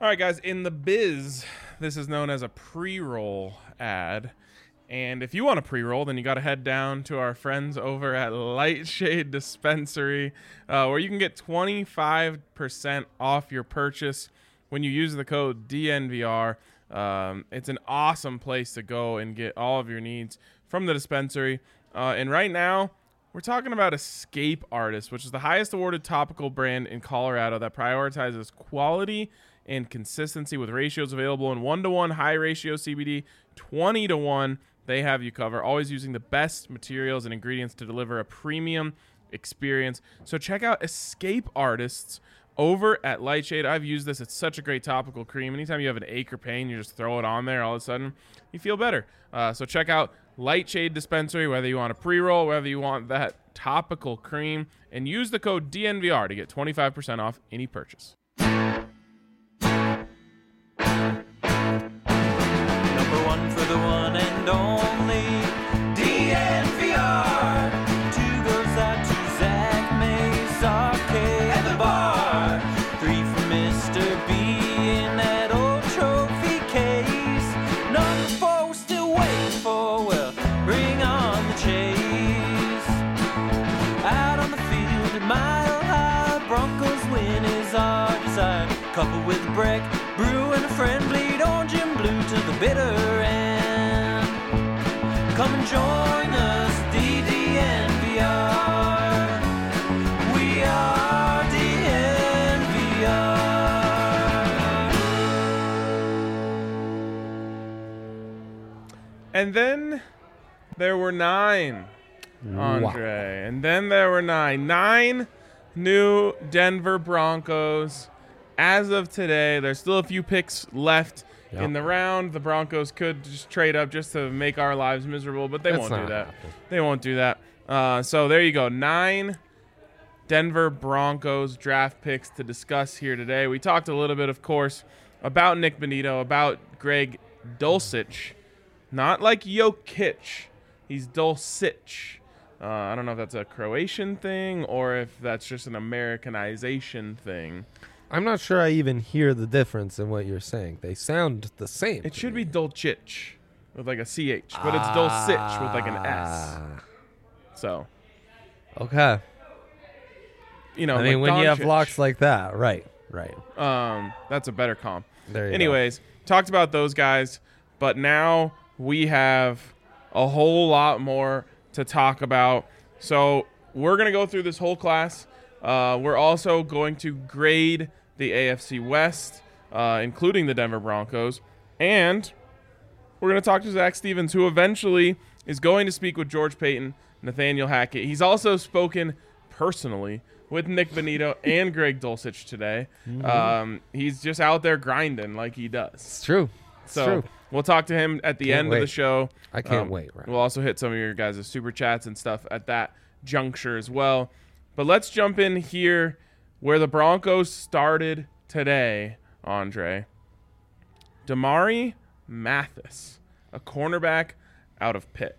All right, guys, in the biz, this is known as a pre-roll ad. And if you want a pre-roll, then you got to head down to our friends over at Lightshade Dispensary, where you can get 25% off your purchase when you use the code DNVR. It's an awesome place to go and get all of your needs from the dispensary. And right now, we're talking about Escape Artist, which is the highest awarded topical brand in Colorado that prioritizes quality and consistency with ratios available in 1-to-1 high ratio CBD, 20-to-1. They have you covered, always using the best materials and ingredients to deliver a premium experience. So check out Escape Artists over at Lightshade. I've used this. It's such a great topical cream. Anytime you have an ache or pain, you just throw it on there. All of a sudden, you feel better. So check out Lightshade Dispensary, whether you want a pre-roll, whether you want that topical cream, and use the code DNVR to get 25% off any purchase. Number one for the one and only DNVR. Two goes out to Zach Mays, Arcade, and the bar. Three for Mr. B in that old trophy case. Number four we're still waiting for, well, bring on the chase. Out on the field at Mile High, Broncos win is our desire. Coupled with a break, brew and a friend, bleed orange and blue to the bitter end. Come and join us, DNVR. We are DNVR. And then there were 9, Andre. Wow. And then there were 9. 9 new Denver Broncos. As of today, there's still a few picks left in the round. The Broncos could just trade up just to make our lives miserable, but they won't do that. They won't do that. So there you go. 9 Denver Broncos draft picks to discuss here today. We talked a little bit, of course, about Nick Bonito, about Greg Dulcich. Not like Jokic. He's Dulcich. I don't know if that's a Croatian thing or if that's just an Americanization thing. I'm not sure I even hear the difference in what you're saying. They sound the same. It should be Dulcich with like a CH, but it's Dulcich with like an S. So. Okay. You know, I mean, like when you have Doncic. locks like that. Right. That's a better comp. There you Anyways, talked about those guys, but now we have a whole lot more to talk about. So we're going to go through this whole class. We're also going to grade the AFC West, including the Denver Broncos. And we're going to talk to Zach Stevens, who eventually is going to speak with George Paton, Nathaniel Hackett. He's also spoken personally with Nick Bonito and Greg Dulcich today. Mm-hmm. He's just out there grinding like he does. It's true. So we'll talk to him at the end of the show. I can't wait. Right. We'll also hit some of your guys' super chats and stuff at that juncture as well. But let's jump in here where the Broncos started today, Andre. Damari Mathis, a cornerback out of Pitt.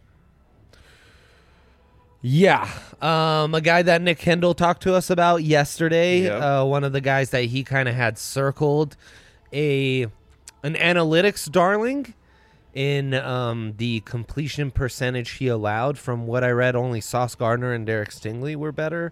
Yeah. A guy that Nick Kendall talked to us about yesterday. Yep. One of the guys that he kind of had circled. An analytics darling in the completion percentage he allowed. From what I read, only Sauce Gardner and Derek Stingley were better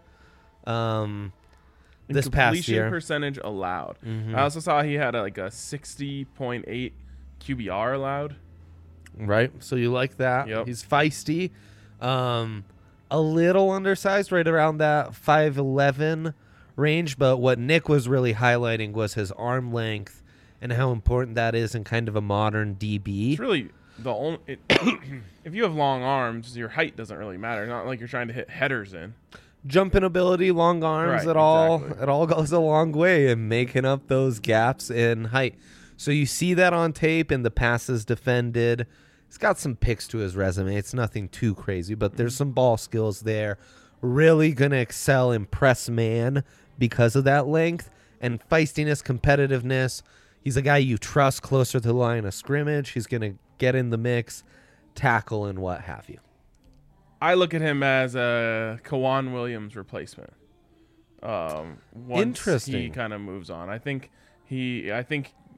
this past year. Completion percentage allowed. Mm-hmm. I also saw he had a 60.8 QBR allowed. Right. So you like that. Yep. He's feisty. A little undersized, right around that 5'11" range. But what Nick was really highlighting was his arm length and how important that is in kind of a modern DB. It's really the only. If you have long arms, your height doesn't really matter. Not like you're trying to hit headers in. Jumping ability, long arms, Right, it all exactly. goes a long way in making up those gaps in height. So you see that on tape in the passes defended. He's got some picks to his resume. It's nothing too crazy, but there's some ball skills there. Really going to excel in press man because of that length and feistiness, competitiveness. He's a guy you trust closer to the line of scrimmage. He's going to get in the mix, tackle, and what have you. I look at him as a Kawan Williams replacement. Once Interesting. he kind of moves on. I think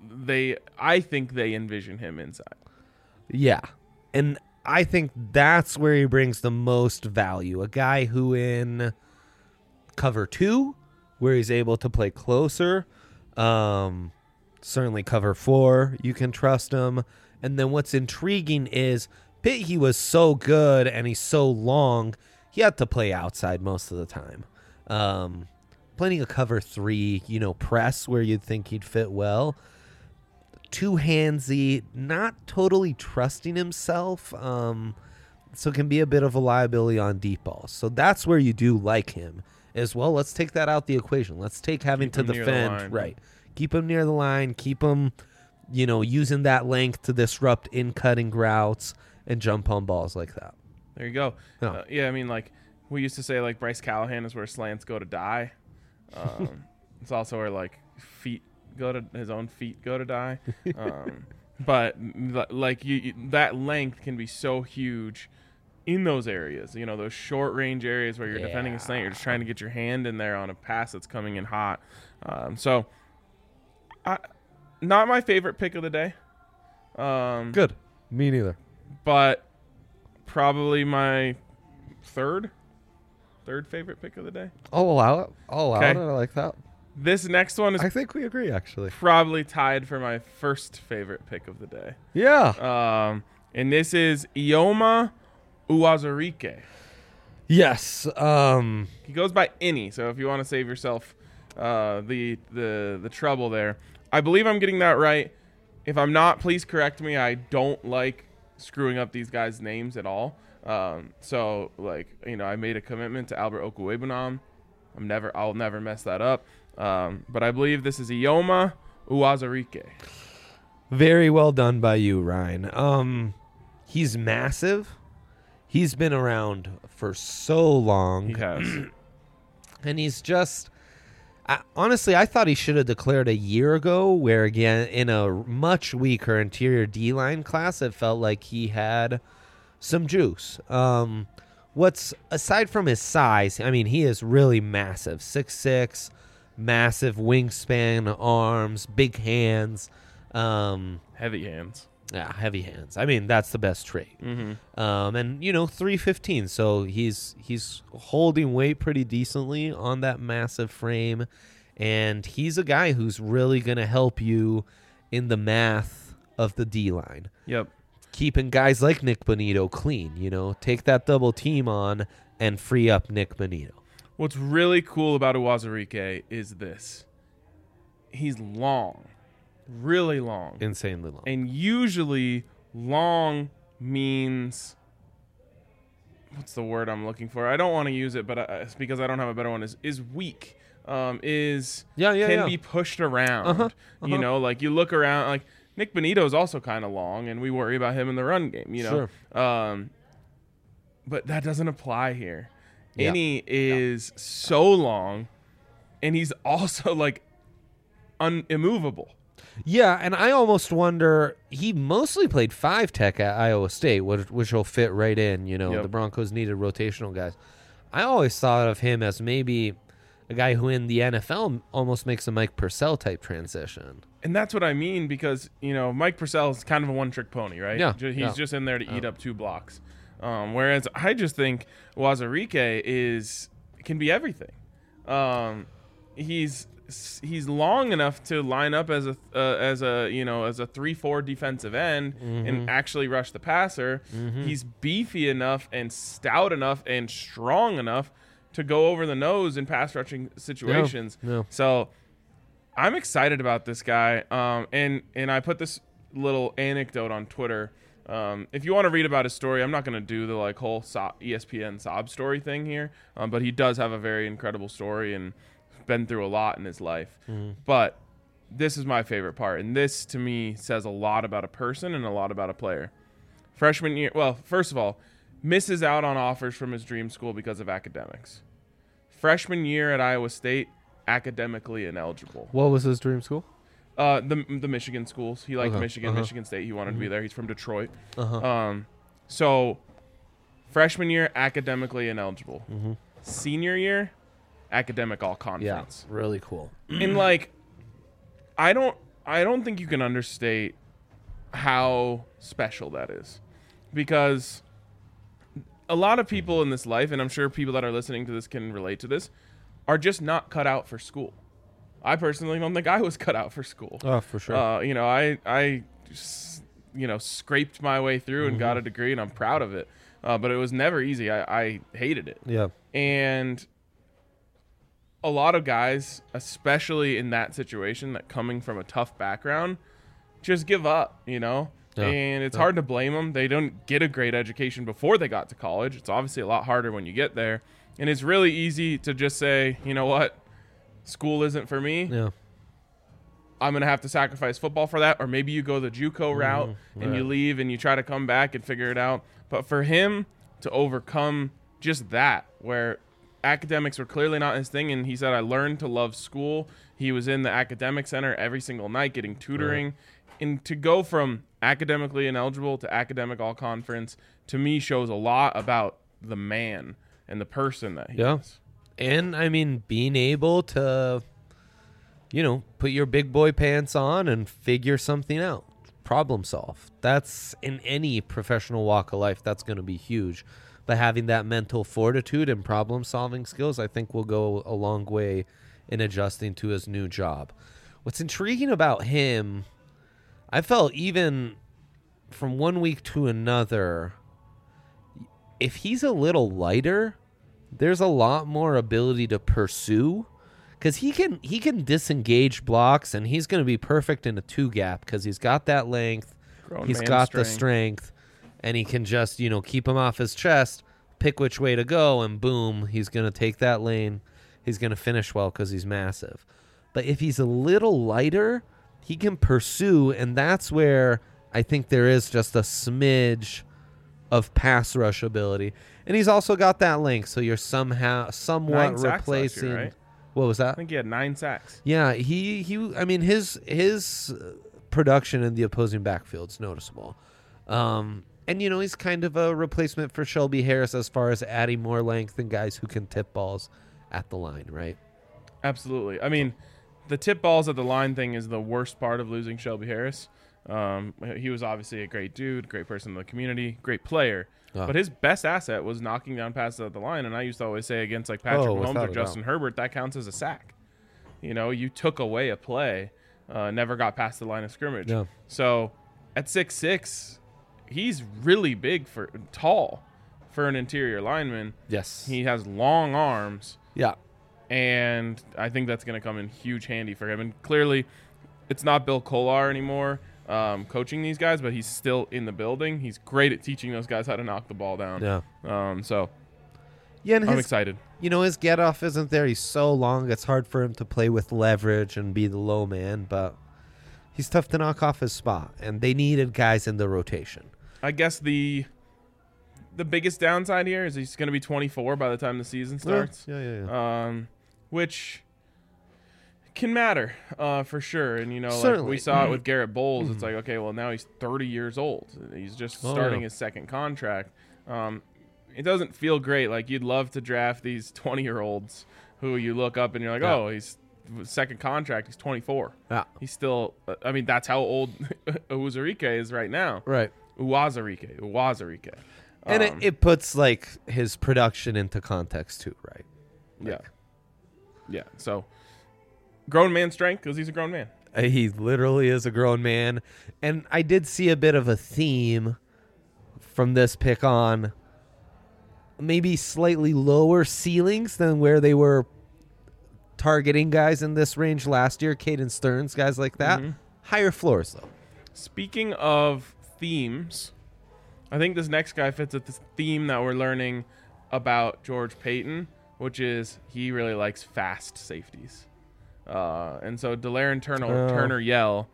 I think they envision him inside. Yeah. And I think that's where he brings the most value. A guy who in cover 2, where he's able to play closer, certainly cover 4, you can trust him. And then what's intriguing is Pitt, he was so good and he's so long, he had to play outside most of the time. Plenty of cover 3, press where you'd think he'd fit well. Too handsy, not totally trusting himself, so can be a bit of a liability on deep balls. So that's where you do like him as well. Let's take that out the equation. Let's take having to defend, right? Keep him near the line. Keep him, using that length to disrupt in cutting routes and jump on balls like that. There you go. Oh. Yeah, I mean, like we used to say, like Bryce Callahan is where slants go to die. It's also where like his own feet go to die. But like that length can be so huge in those areas, those short range areas where you're defending a slant. You're just trying to get your hand in there on a pass that's coming in hot. So not my favorite pick of the day. Good. Me neither. But probably my third favorite pick of the day. I'll allow it. I like that. This next one is I think we agree, actually. probably tied for my first favorite pick of the day. Yeah. And this is Ioma Uwazurike. Yes. He goes by Any, so if you want to save yourself the trouble there. I believe I'm getting that right. If I'm not, please correct me. I don't like screwing up these guys' names at all. So I made a commitment to Albert Okwuegbunam. I'll never mess that up. But I believe this is Ioma Uwazurike. Very well done by you, Ryan. He's massive. He's been around for so long. He has. And he's just... honestly, I thought he should have declared a year ago, where, again, in a much weaker interior D-line class, it felt like he had some juice. Aside from his size, I mean, he is really massive. 6'6", massive wingspan, arms, big hands. Heavy hands. Yeah, heavy hands. I mean, that's the best trait. Mm-hmm. And 315, so he's holding weight pretty decently on that massive frame, and he's a guy who's really going to help you in the math of the D-line. Yep. Keeping guys like Nick Bonito clean, take that double team on and free up Nick Bonito. What's really cool about Uwazurike is this. He's long. Really long. Insanely long. And usually long means, what's the word I'm looking for? I don't want to use it, but it's because I don't have a better one. Is weak. Can be pushed around. Like you look around, like Nick Bonito is also kind of long, and we worry about him in the run game. Sure. But that doesn't apply here. Yeah. Any is so long, and he's also like immovable. Yeah, and I almost wonder, he mostly played 5-tech at Iowa State, which will fit right in. Yep. The Broncos needed rotational guys. I always thought of him as maybe a guy who in the NFL almost makes a Mike Purcell type transition. And that's what I mean, because, Mike Purcell is kind of a one-trick pony, right? Yeah. He's just in there to eat up 2 blocks. Whereas I just think Uwazurike can be everything. He's long enough to line up as a 3-4 defensive end and actually rush the passer. He's beefy enough and stout enough and strong enough to go over the nose in pass rushing situations. Yeah. So I'm excited about this guy. And I put this little anecdote on Twitter. If you want to read about his story, I'm not going to do the whole ESPN sob story thing here, but he does have a very incredible story and been through a lot in his life. But this is my favorite part, and this to me says a lot about a person and a lot about a player. Freshman year, well, first of all, misses out on offers from his dream school because of academics. Freshman year at Iowa State, academically ineligible. What was his dream school? The Michigan schools. He liked Michigan State. He wanted to be there. He's from Detroit. So freshman year, academically ineligible. Senior year, academic all conference. Yeah, really cool. And I don't think you can understate how special that is, because a lot of people in this life, and I'm sure people that are listening to this can relate to this, are just not cut out for school. I personally don't think I was cut out for school. Oh, for sure. You know, I just, you know, scraped my way through and got a degree, and I'm proud of it. But it was never easy. I hated it. Yeah. And a lot of guys, especially in that situation, that coming from a tough background, just give up, you know? Yeah. And it's hard to blame them. They don't get a great education before they got to college. It's obviously a lot harder when you get there. And it's really easy to just say, you know what? School isn't for me. Yeah. I'm going to have to sacrifice football for that. Or maybe you go the JUCO route and you leave and you try to come back and figure it out. But for him to overcome just that, where academics were clearly not his thing, and he said, I learned to love school. He was in the academic center every single night getting tutoring. And to go from academically ineligible to academic all-conference, to me, shows a lot about the man and the person that he is. And, I mean, being able to, you know, put your big boy pants on and figure something out. Problem solve. That's, in any professional walk of life, that's going to be huge. But having that mental fortitude and problem solving skills, I think, will go a long way in adjusting to his new job. What's intriguing about him, I felt even from one week to another, if he's a little lighter, there's a lot more ability to pursue, because he can disengage blocks, and he's going to be perfect in a 2-gap because he's got that length, he's got the strength, and he can just, you know, keep him off his chest, pick which way to go, and boom, he's going to take that lane. He's going to finish well because he's massive. But if he's a little lighter, he can pursue, and that's where I think there is just a smidge of pass rush ability. And he's also got that length, so you're somewhat replacing. Year, right? What was that? I think he had 9 sacks. Yeah, he. I mean, his production in the opposing backfield's noticeable. And, you know, he's kind of a replacement for Shelby Harris as far as adding more length and guys who can tip balls at the line, right? Absolutely. I mean, the tip balls at the line thing is the worst part of losing Shelby Harris. He was obviously a great dude, great person in the community, great player. But his best asset was knocking down passes at the line. And I used to always say against like Patrick Mahomes or Justin Herbert, that counts as a sack. You know, you took away a play, never got past the line of scrimmage. Yeah. So at 6'6", he's really tall for an interior lineman. Yes. He has long arms. Yeah. And I think that's going to come in huge handy for him. And clearly, it's not Bill Kolar anymore coaching these guys, but he's still in the building. He's great at teaching those guys how to knock the ball down. Yeah. So and I'm excited. You know, his get-off isn't there. He's so long, it's hard for him to play with leverage and be the low man, but he's tough to knock off his spot, and they needed guys in the rotation. I guess the biggest downside here is he's going to be 24 by the time the season starts. Yeah. Which can matter for sure. And, you know, Certainly. like we saw it with Garrett Bowles. It's like, okay, well, now he's 30 years old. He's just starting his second contract. It doesn't feel great. Like, you'd love to draft these 20-year-olds who you look up and you're like, oh, he's second contract. He's 24. Yeah. He's still, I mean, that's how old Uwazurike is right now. Right. Uwazurike. And it puts, like, his production into context, too, right? Like, Yeah. So, grown man strength because he's a grown man. he literally is a grown man. And I did see a bit of a theme from this pick on maybe slightly lower ceilings than where they were targeting guys in this range last year. Caden Stearns, guys like that. Higher floors, though. Speaking of themes, I think this next guy fits with this theme that we're learning about George Paton, which is he really likes fast safeties. And so De'Laren Turner Yell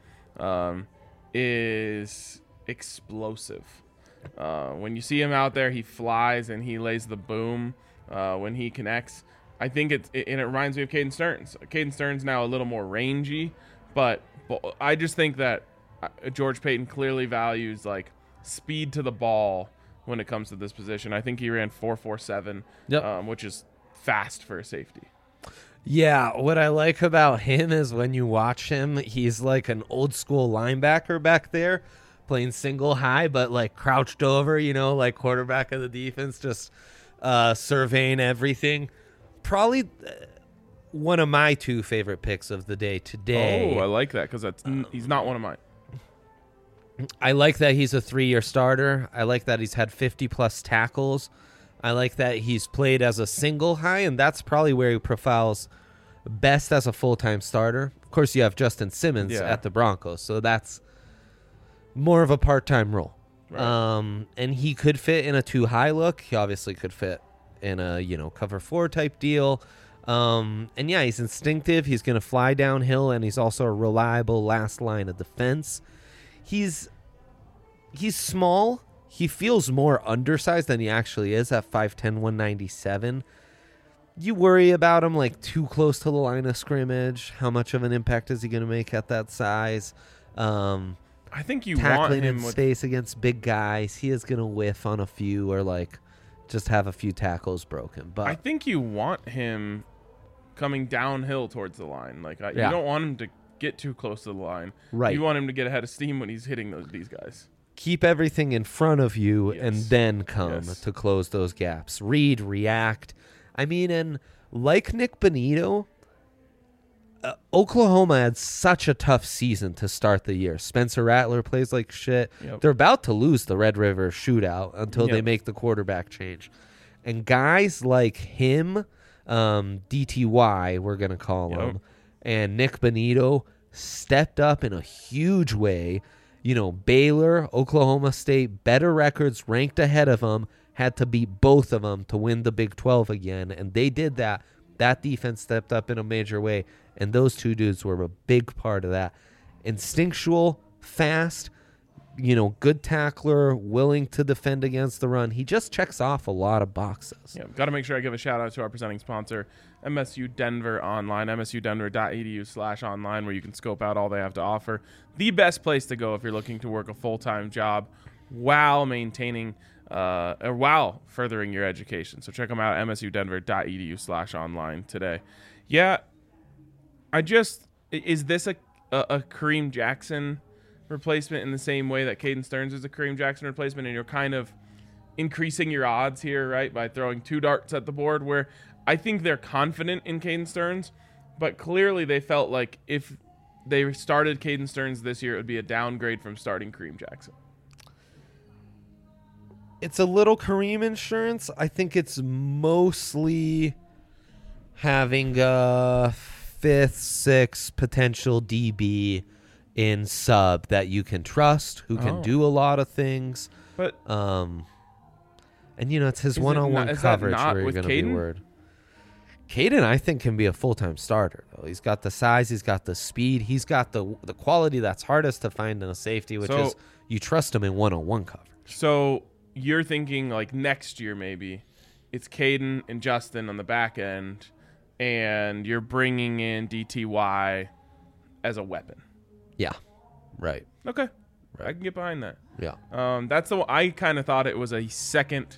is explosive. When you see him out there, he flies and he lays the boom when he connects. I think it reminds me of Caden Stearns. Caden Stearns now a little more rangy, but I just think that George Paton clearly values like speed to the ball when it comes to this position. I think he ran 4.47, which is fast for a safety. Yeah, what I like about him is when you watch him, he's like an old school linebacker back there playing single high, but like crouched over, like quarterback of the defense, just surveying everything. Probably one of my two favorite picks of the day today. Oh, I like that because he's not one of mine. I like that he's a 3-year starter. I like that he's had 50-plus tackles. I like that he's played as a single high, and that's probably where he profiles best as a full-time starter. Of course, you have Justin Simmons at the Broncos, so that's more of a part-time role. Right. And he could fit in a 2-high look. He obviously could fit in a, cover 4 type deal. And yeah, he's instinctive. He's going to fly downhill, and he's also a reliable last line of defense. He's small. He feels more undersized than he actually is at 5'10", 197. You worry about him like too close to the line of scrimmage. How much of an impact is he going to make at that size? I think you tackling want him in with space against big guys. He is going to whiff on a few or like just have a few tackles broken. But I think you want him coming downhill towards the line. Like you don't want him to get too close to the line. Right. You want him to get ahead of steam when he's hitting these guys. Keep everything in front of you and then come to close those gaps. Read, react. I mean, and like Nick Bonito, Oklahoma had such a tough season to start the year. Spencer Rattler plays like shit. Yep. They're about to lose the Red River shootout until they make the quarterback change. And guys like him, DTY, we're going to call him, and Nick Bonito stepped up in a huge way. Baylor, Oklahoma State, better records, ranked ahead of them, had to beat both of them to win the Big 12 again, and they did that. That defense stepped up in a major way, and those two dudes were a big part of that. Instinctual, fast, good tackler, willing to defend against the run. He just checks off a lot of boxes. Yeah, got to make sure I give a shout out to our presenting sponsor, MSU Denver Online, msudenver.edu/online, where you can scope out all they have to offer. The best place to go if you're looking to work a full-time job while maintaining or while furthering your education. So check them out, msudenver.edu/online today. Yeah, is this a Kareem Jackson replacement in the same way that Caden Stearns is a Kareem Jackson replacement, and you're kind of increasing your odds here, right, by throwing 2 darts at the board, where I think they're confident in Caden Stearns, but clearly they felt like if they started Caden Stearns this year, it would be a downgrade from starting Kareem Jackson. It's a little Kareem insurance. I think it's mostly having a 5th, 6th potential DB in sub that you can trust, who can do a lot of things. But and it's his one-on-one coverage where you're going to be worried. Caden, I think, can be a full-time starter, though. He's got the size, he's got the speed, he's got the quality that's hardest to find in a safety, which is you trust him in one-on-one coverage. So you're thinking like next year maybe it's Caden and Justin on the back end, and you're bringing in DTY as a weapon. Yeah, right. Okay, right. I can get behind that. Yeah. That's I kind of thought it was a second.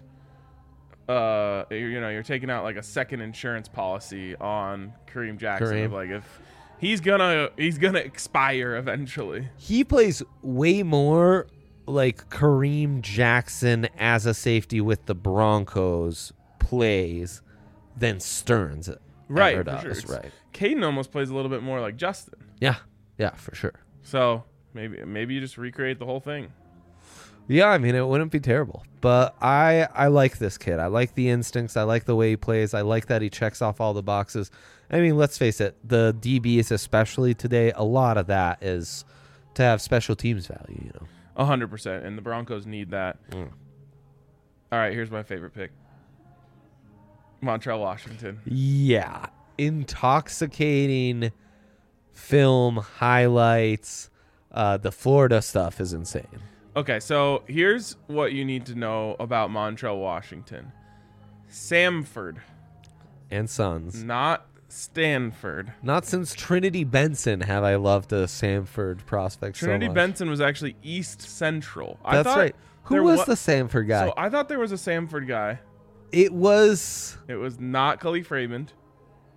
You're taking out like a second insurance policy on Kareem Jackson. Like if he's gonna expire eventually. He plays way more like Kareem Jackson as a safety with the Broncos plays than Stearns ever does. For sure. Right. Caden almost plays a little bit more like Justin. Yeah, for sure. So maybe you just recreate the whole thing. Yeah, I mean, it wouldn't be terrible. But I like this kid. I like the instincts. I like the way he plays. I like that he checks off all the boxes. I mean, let's face it, the DBs especially today, a lot of that is to have special teams value, 100%, and the Broncos need that. All right, here's my favorite pick. Montrell Washington. Yeah. Intoxicating film highlights. The Florida stuff is insane. Okay, so here's what you need to know about Montrell Washington. Samford. And Sons. Not Stanford. Not since Trinity Benson have I loved a Samford prospect Trinity so much. Benson was actually East Central. That's right. Who was the Samford guy? So I thought there was a Samford guy. It was not Khalif Raymond.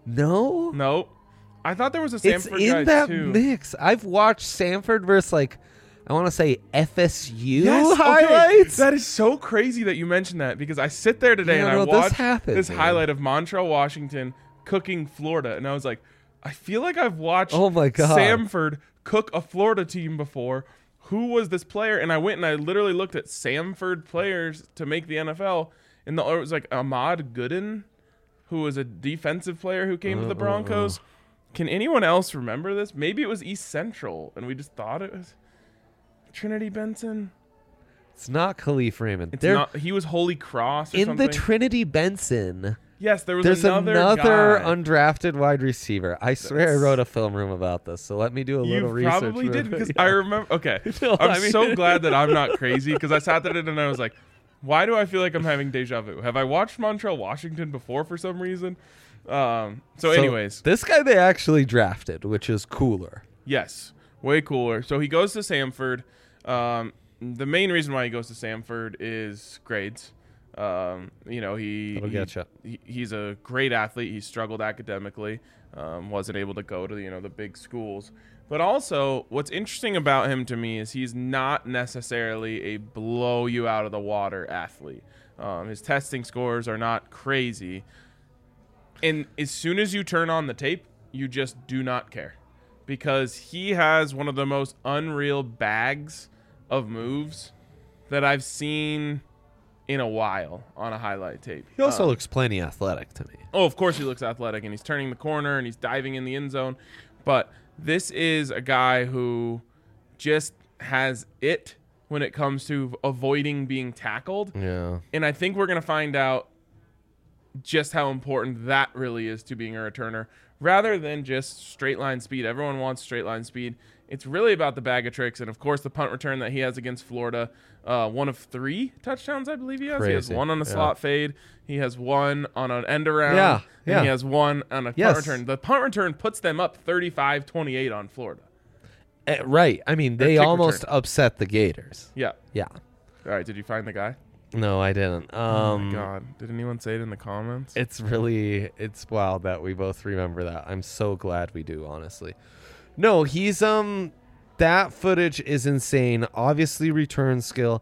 No? Nope. I thought there was a It's Samford guy in that too. mix. I've watched Samford versus, like, I want to say FSU Yes, okay. highlights. That is so crazy that you mentioned that because I sit there today Yeah, and I no, this watch happened, this man. highlight of Montreal, Washington cooking Florida, and I was like, I feel like I've watched Oh my God. Samford cook a Florida team before. Who was this player? And I went and I literally looked at Samford players to make the NFL, and it was like Ahmad Gooden, who was a defensive player who came to the Broncos. Can anyone else remember this? Maybe it was East Central, and we just thought it was Trinity Benson. It's not Khalif Raymond. It's They're not. He was Holy Cross or in something. the Trinity Benson. Yes, there was There's another another guy. undrafted wide receiver. I swear I wrote a film room about this, so let me do a little You research. probably did because Yeah. I remember. Okay, No, I'm I mean- so glad that I'm not crazy because I sat there and I was like, "Why do I feel like I'm having deja vu? Have I watched Montreal, Washington before for some reason?" So, anyways, this guy they actually drafted, which is cooler. yes, way cooler. So he goes to Samford. The main reason why he goes to Samford is grades. That'll get ya. He's a great athlete. He struggled academically, wasn't able to go to the big schools. But also, what's interesting about him to me is he's not necessarily a blow you out of the water athlete. His testing scores are not crazy. And as soon as you turn on the tape, you just do not care. Because he has one of the most unreal bags of moves that I've seen in a while on a highlight tape. He also looks plenty athletic to me. Oh, of course he looks athletic, and he's turning the corner, and he's diving in the end zone. But this is a guy who just has it when it comes to avoiding being tackled. Yeah. And I think we're going to find out just how important that really is to being a returner rather than just straight line speed. Everyone wants straight line speed. It's really about the bag of tricks. And, of course, the punt return that he has against Florida, one of 3 touchdowns, I believe he has. He has Crazy. one on a Yeah. slot fade. He has one on an end around. Yeah, And yeah. he has one on a Yes. punt return. The punt return puts them up 35-28 on Florida. Right. I mean, they kick almost return. upset the Gators. Yeah. Yeah. All right. Did you find the guy? No, I didn't. Oh, my God. Did anyone say it in the comments? It's wild that we both remember that. I'm so glad we do, honestly. No, he's that footage is insane. Obviously return skill.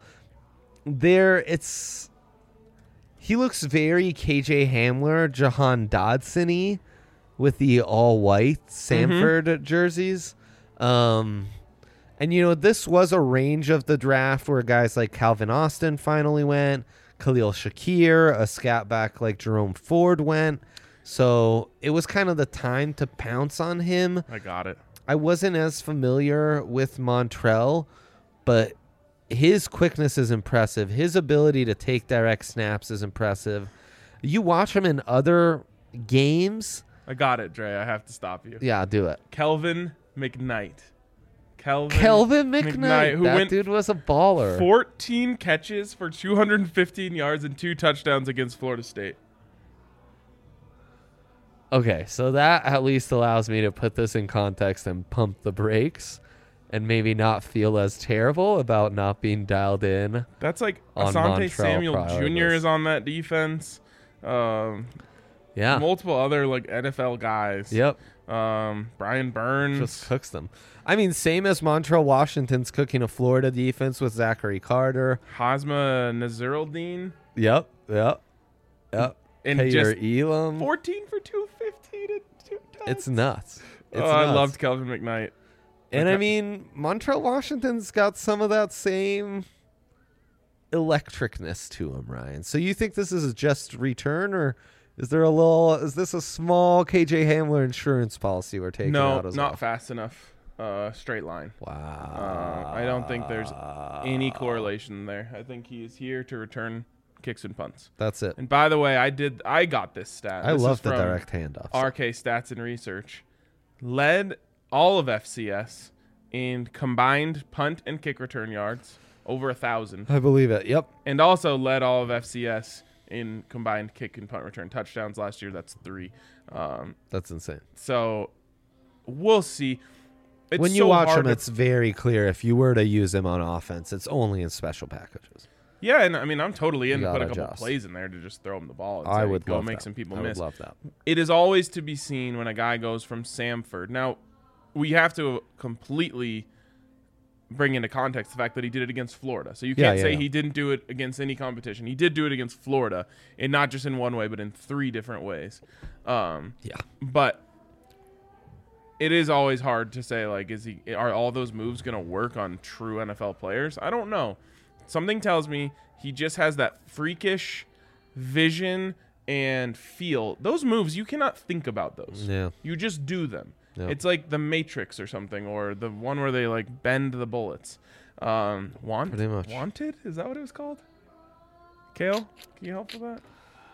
He looks very KJ Hamler, Jahan Dodson-y with the all white Samford jerseys. And this was a range of the draft where guys like Calvin Austin finally went, Khalil Shakir, a scat back like Jerome Ford went. So it was kind of the time to pounce on him. I got it. I wasn't as familiar with Montrell, but his quickness is impressive. His ability to take direct snaps is impressive. You watch him in other games. I got it, Dre. I have to stop you. Yeah, do it. Kelvin McKnight. Kelvin McKnight. Who That went dude was a baller. 14 catches for 215 yards and 2 touchdowns against Florida State. Okay, so that at least allows me to put this in context and pump the brakes and maybe not feel as terrible about not being dialed in. That's like On Asante Montreal Samuel prior to Jr. this. is on that defense. Yeah. Multiple other like NFL guys. Yep. Brian Burns. Just cooks them. I mean, same as Montreal Washington's cooking a Florida defense with Zachary Carter. Hazma Naziruddin. Yep. And Taylor just Elam. 14 for 215 and 2 touchdowns. It's nuts. It's I nuts. loved Kelvin McKnight. And Okay. I mean, Montreal Washington's got some of that same electricness to him, Ryan. So you think this is a just return, or is this a small KJ Hamler insurance policy we're taking No, out as not well? fast enough. Straight line. Wow. I don't think there's any correlation there. I think he is here to return kicks and punts. That's it. And by the way, I got this stat. I This love is the from direct handoffs. RK Stats and Research. Led all of FCS in combined punt and kick return yards, over 1,000. I believe it. Yep. And also led all of FCS in combined kick and punt return touchdowns last year. That's 3. That's insane. So we'll see. It's When you so watch hard him, to- it's very clear if you were to use him on offense, it's only in special packages. Yeah, and I mean, I'm totally in to put gotta a couple adjust. plays in there to just throw him the ball. And I say, would go love make that. some people I miss. would love that. It is always to be seen when a guy goes from Samford. Now, we have to completely bring into context the fact that he did it against Florida. So you can't say he didn't do it against any competition. He did do it against Florida, and not just in one way, but in 3 different ways. But it is always hard to say, like, are all those moves going to work on true NFL players? I don't know. Something tells me he just has that freakish vision and feel. Those moves, you cannot think about those. Yeah. You just do them. Yep. It's like the Matrix or something, or the one where they like bend the bullets. Pretty much. Wanted? Is that what it was called? Kale, can you help with that?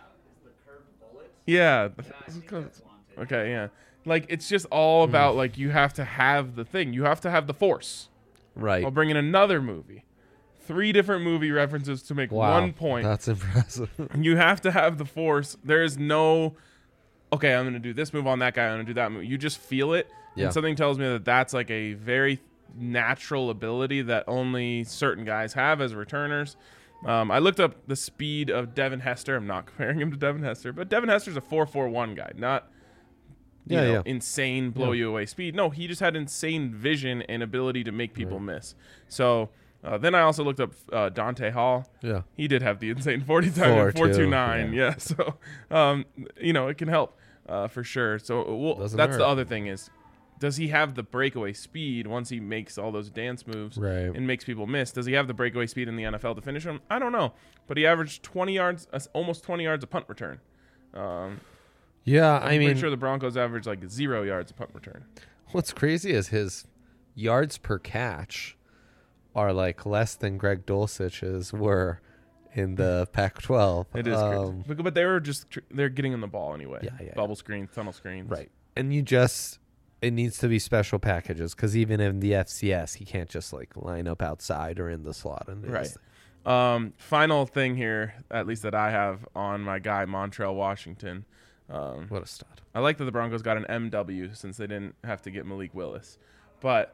Yeah. Okay, yeah. Like, it's just all about, like, you have to have the thing. You have to have the force. Right. I'll bring in another movie. 3 different movie references to make Wow. 1 point. That's impressive. You have to have the force. There is no, okay, I'm going to do this move on that guy. I'm going to do that move. You just feel it. Yeah. And something tells me that that's like a very natural ability that only certain guys have as returners. I looked up the speed of Devin Hester. I'm not comparing him to Devin Hester, but Devin Hester's a 4.41 guy, not insane blow you away speed. No, he just had insane vision and ability to make people miss. So then I also looked up Dante Hall. Yeah. He did have the insane 40 time 4.29. Yeah. Yeah. So, it can help for sure. So Doesn't that's hurt. the other thing is, does he have the breakaway speed once he makes all those dance moves Right. and makes people miss? Does he have the breakaway speed in the NFL to finish him? I don't know. But he averaged 20 yards, almost 20 yards a punt return. Yeah, I'm I mean, pretty sure the Broncos average like 0 yards a punt return. what's crazy is his yards per catch are like less than Greg Dulcich's were in the Pac-12. It is crazy. But they were they're getting in the ball anyway. Yeah. Bubble screens, tunnel screens. Right. And it needs to be special packages because even in the FCS, he can't just like line up outside or in the slot. And do this Right. thing. Final thing here, at least that I have on my guy, Montrell Washington. What a stud. I like that the Broncos got an MW since they didn't have to get Malik Willis. But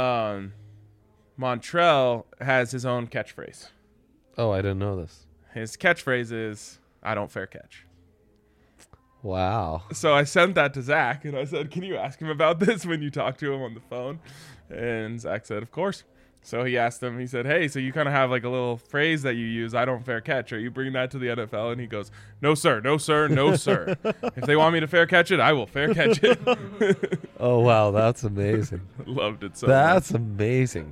Montrell has his own catchphrase. Oh, I didn't know this. His catchphrase is, "I don't fair catch." Wow. So I sent that to Zach, and I said, "Can you ask him about this when you talk to him on the phone?" And Zach said, "Of course." So he asked him, he said, "Hey, so you kind of have like a little phrase that you use, 'I don't fair catch.' Are you bringing that to the NFL?" And he goes, "No, sir. No, sir. No, sir. If they want me to fair catch it, I will fair catch it." Oh, wow. That's amazing. Loved it so That's much. amazing.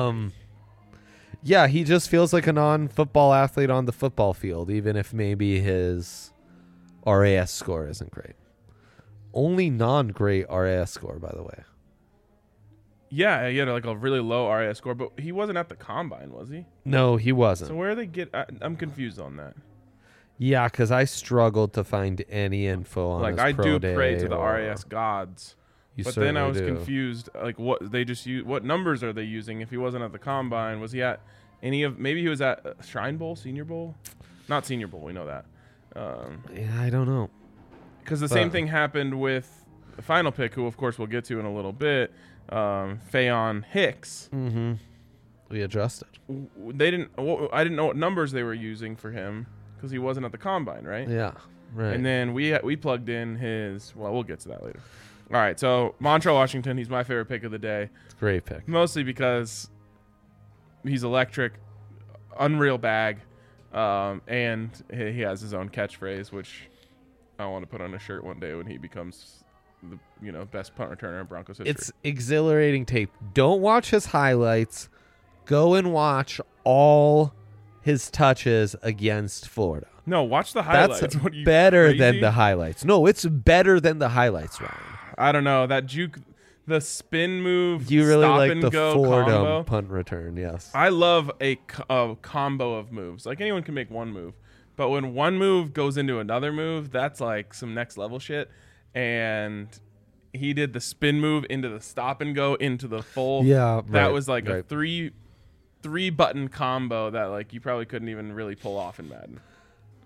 Yeah, he just feels like a non-football athlete on the football field, even if maybe his RAS score isn't great. Only non-great RAS score, by the way. Yeah, he had like a really low RAS score, but he wasn't at the combine, was he? No, he wasn't. So where they get? I'm confused on that. Yeah, because I struggled to find any info on Like his I pro do day pray to the or- RAS gods. You But then I was certainly do. confused. Like, what they just use? What numbers are they using? If he wasn't at the combine, was he at any of? Maybe he was at Shrine Bowl, Senior Bowl, not Senior Bowl. We know that. Yeah, I don't know. Because the same thing happened with the final pick, who of course we'll get to in a little bit. Fayon Hicks. Mm-hmm. We adjusted. They didn't. I didn't know what numbers they were using for him because he wasn't at the combine, right? Yeah, right. And then we plugged in his. Well, we'll get to that later. All right, so Montrell Washington, he's my favorite pick of the day. It's a great pick. Mostly because he's electric, unreal bag, and he has his own catchphrase, which I want to put on a shirt one day when he becomes the best punt returner in Broncos history. It's exhilarating tape. Don't watch his highlights. Go and watch all his touches against Florida. No, watch the highlights. That's What are you, better crazy? than the highlights. No, it's better than the highlights, Ryan. I don't know, that juke, the spin move. You really stop like and the go Fordham combo. punt return, yes. I love a combo of moves. Like, anyone can make one move, but when one move goes into another move, that's like some next level shit. And he did the spin move into the stop and go into the full. Yeah, that right, was like a right. three button combo that like you probably couldn't even really pull off in Madden.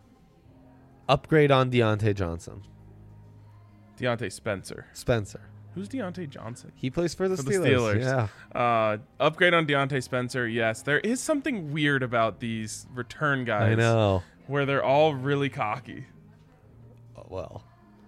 Upgrade on Deontay Johnson. Deontay Spencer. Spencer. Who's Deontay Johnson? He plays for the For Steelers. the Steelers. Yeah. Upgrade on Deontay Spencer. Yes, there is something weird about these return guys. I know. Where they're all really cocky. Oh, well,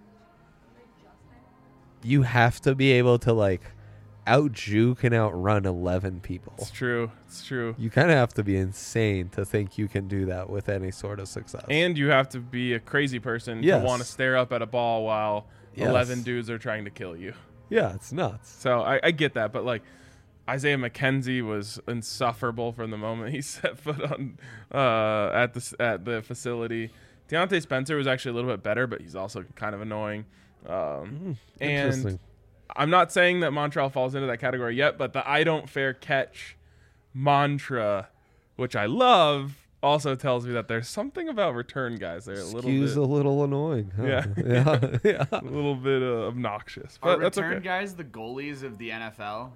you have to be able to like out-juke and outrun 11 people. It's true. It's true. You kind of have to be insane to think you can do that with any sort of success. And you have to be a crazy person Yes. to want to stare up at a ball while Yes. 11 dudes are trying to kill you. Yeah, it's nuts. So I get that, but like Isaiah McKenzie was insufferable from the moment he set foot on at the facility. Deontay Spencer was actually a little bit better, but he's also kind of annoying. And Interesting. I'm not saying that Montreal falls into that category yet, but the I don't fair catch mantra, which I love, also tells me that there's something about return guys. They're Skews a little annoying. Huh? Yeah. yeah. a little bit obnoxious, Are but that's return okay. guys the goalies of the NFL?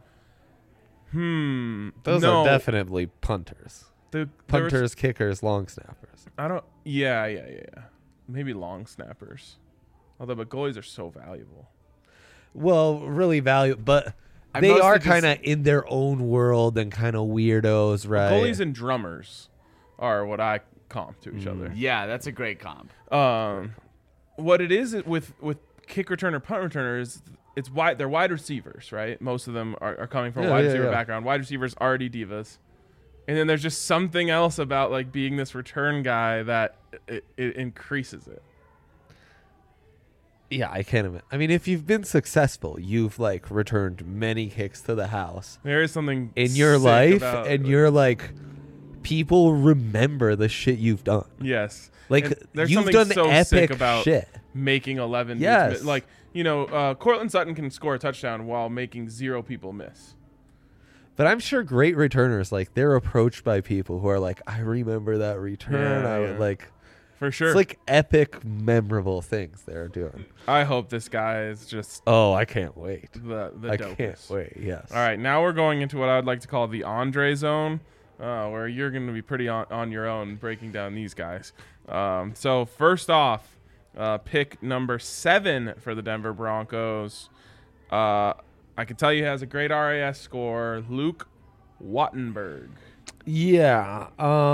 Those no, are definitely punters. there was- Punters, kickers, long snappers. I don't. Yeah. Maybe long snappers. Although, but goalies are so valuable. Well, really valuable, but I they mostly are just- kind of in their own world and kind of weirdos, right? Goalies and drummers are what I comp to each other. Yeah, that's a great comp. What it is with kick returner, punt returners, it's wide. They're wide receivers, right? Most of them are coming from a Yeah, wide yeah, receiver yeah. background. Wide receivers already divas, and then there's just something else about like being this return guy that it increases it. Yeah, I can't imagine. I mean, if you've been successful, you've like returned many kicks to the house There is something in your sick life, about, and you're like, people remember the shit you've done. yes, Like And there's you've something done so sick epic about shit. making 11 dudes Yes. miss. Like, Cortland Sutton can score a touchdown while making 0 people miss. But I'm sure great returners, like they're approached by people who are like, I remember that return. Yeah, I yeah. would like. For sure. It's like epic, memorable things they're doing. I hope this guy is just Oh, I can't wait. the I dopest. can't wait. Yes. All right, now we're going into what I would like to call the Andre zone, where you're going to be pretty on your own breaking down these guys. So first off, pick number 7 for the Denver Broncos. I can tell you he has a great RAS score, Luke Wattenberg. Yeah.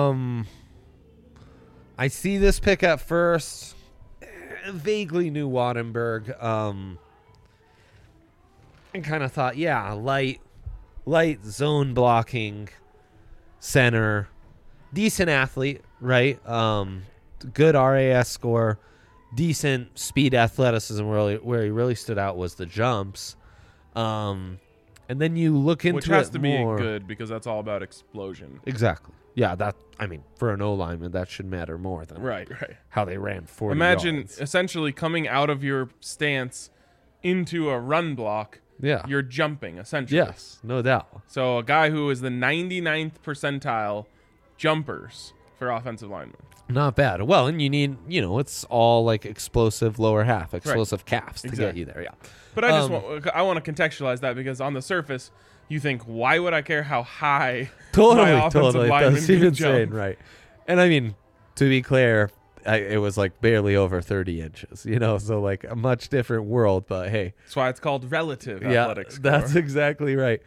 I see this pick at first. Vaguely knew Wattenberg. And kind of thought, yeah, light zone blocking center, decent athlete, right? Good RAS score, decent speed, athleticism. Where he really stood out was the jumps. And then you look into Which has it to be more. good because that's all about explosion. Exactly. Yeah, for an O-lineman, that should matter more than Right. how they ran 40 Imagine yards. essentially coming out of your stance into a run block. Yeah. You're jumping, essentially. Yes, no doubt. So a guy who is the 99th percentile jumpers for offensive linemen. Not bad. Well, and you need, it's all like explosive lower half, explosive calves to get Exactly. you there. Yeah. But I want to contextualize that because on the surface, you think, why would I care how high my offensive lineman That's can insane, jump? right? And I mean, to be clear, it was like barely over 30 inches, so like a much different world. But hey, That's why it's called relative yeah, athletics. that's exactly right.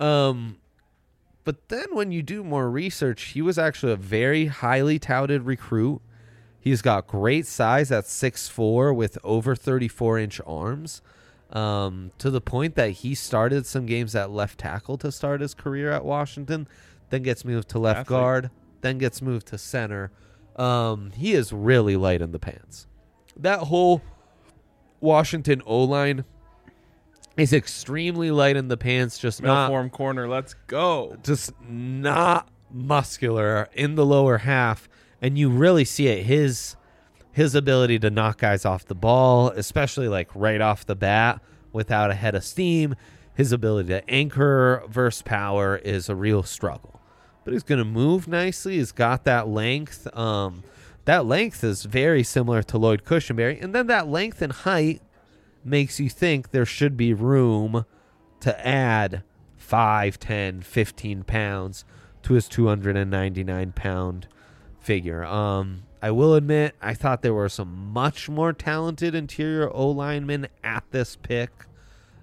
But then when you do more research, he was actually a very highly touted recruit. He's got great size at 6'4" with over 34-inch arms, to the point that he started some games at left tackle to start his career at Washington, then gets moved to left Athlete. guard, then gets moved to center. He is really light in the pants. That whole Washington O-line is extremely light in the pants, just not Middle form corner, let's go. just not muscular in the lower half, and you really see it. His ability to knock guys off the ball, especially like right off the bat without a head of steam, his ability to anchor versus power is a real struggle. But he's going to move nicely. He's got that length. That length is very similar to Lloyd Cushenberry, and then that length and height makes you think there should be room to add 5, 10, 15 pounds to his 299-pound figure. I will admit, I thought there were some much more talented interior O-linemen at this pick.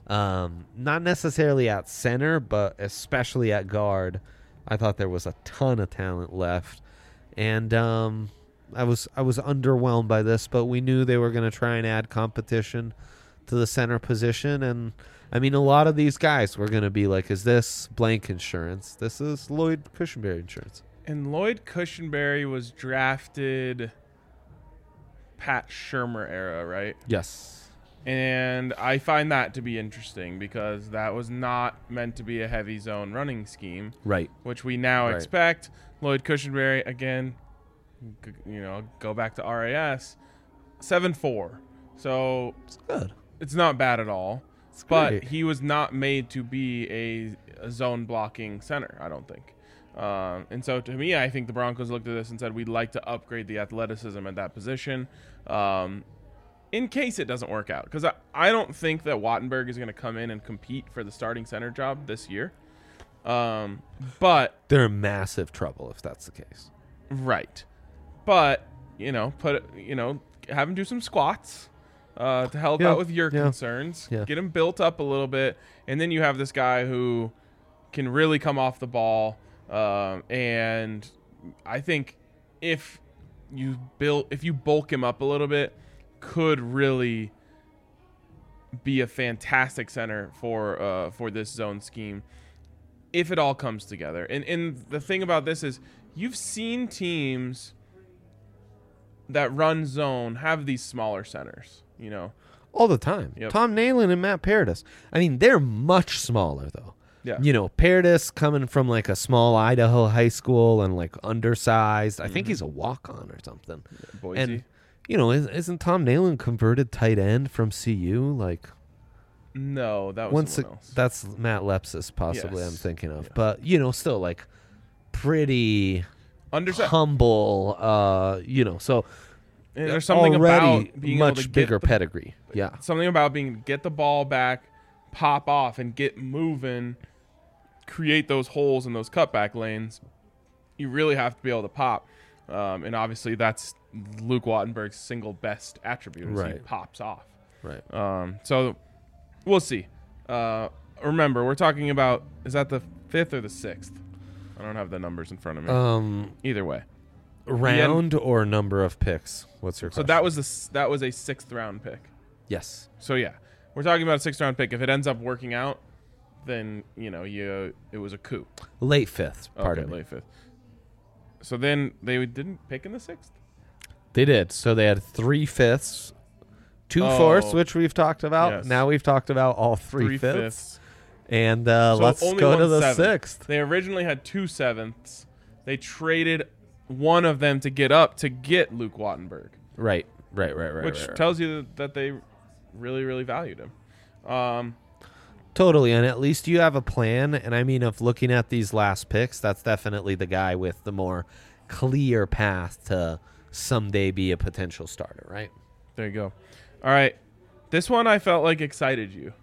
Not necessarily at center, but especially at guard. I thought there was a ton of talent left, and I was underwhelmed by this. But we knew they were going to try and add competition to the center position, and I mean, a lot of these guys were going to be like, "Is this blank insurance? This is Lloyd Cushenberry insurance." And Lloyd Cushenberry was drafted Pat Shurmur era, right? Yes. And I find that to be interesting because that was not meant to be a heavy zone running scheme, Right. which we now Right. expect. Lloyd Cushenberry, again, go back to RAS, 7'4". So It's good. it's not bad at all. It's But great. he was not made to be a zone blocking center, I don't think. And so to me, I think the Broncos looked at this and said, we'd like to upgrade the athleticism at that position in case it doesn't work out. Because I don't think that Wattenberg is going to come in and compete for the starting center job this year. But They're in massive trouble if that's the case. right. But, have him do some squats to help Yeah, out with your yeah, concerns. yeah. Get him built up a little bit. And then you have this guy who can really come off the ball. And I think if you bulk him up a little bit, could really be a fantastic center for this zone scheme if it all comes together. And the thing about this is you've seen teams that run zone have these smaller centers, All the time. Yep. Tom Nalen and Matt Paradis. I mean, they're much smaller, though. Yeah. Paradis coming from like a small Idaho high school and like undersized. I think he's a walk-on or something. Boise. And, isn't Tom Nalen converted tight end from CU? Like, No, that was someone else. that's Matt Lepsis, possibly, Yes. I'm thinking of. Yeah. But, still like pretty humble, so And there's something already about being much able to bigger get the, pedigree. Yeah. something about being get the ball back, pop off, and get moving, create those holes in those cutback lanes. You really have to be able to pop, and obviously that's Luke Wattenberg's single best attribute. Is he Right. pops off. Right. So we'll see. Remember, we're talking about, is that the 5th or the 6th? I don't have the numbers in front of me. Either way. Round or number of picks? What's your So question? that was a 6th round pick. Yes. So yeah, we're talking about a 6th round pick. If it ends up working out, then it was a coup. Late fifth, pardon Okay, me. late 5th. So then they didn't pick in the 6th. They did. So they had 3/5, 2 Oh. fourths, which we've talked about. Yes. Now we've talked about all 3/5. 3/5. And So let's only go to 1 the 7th. 6th. They originally had 2 7ths. They traded one of them to get up to get Luke Wattenberg, Right. which right. tells you that they really, really valued him. Totally, and at least you have a plan. And I mean, of looking at these last picks, that's definitely the guy with the more clear path to someday be a potential starter, right? There you go. All right, this one I felt like excited you.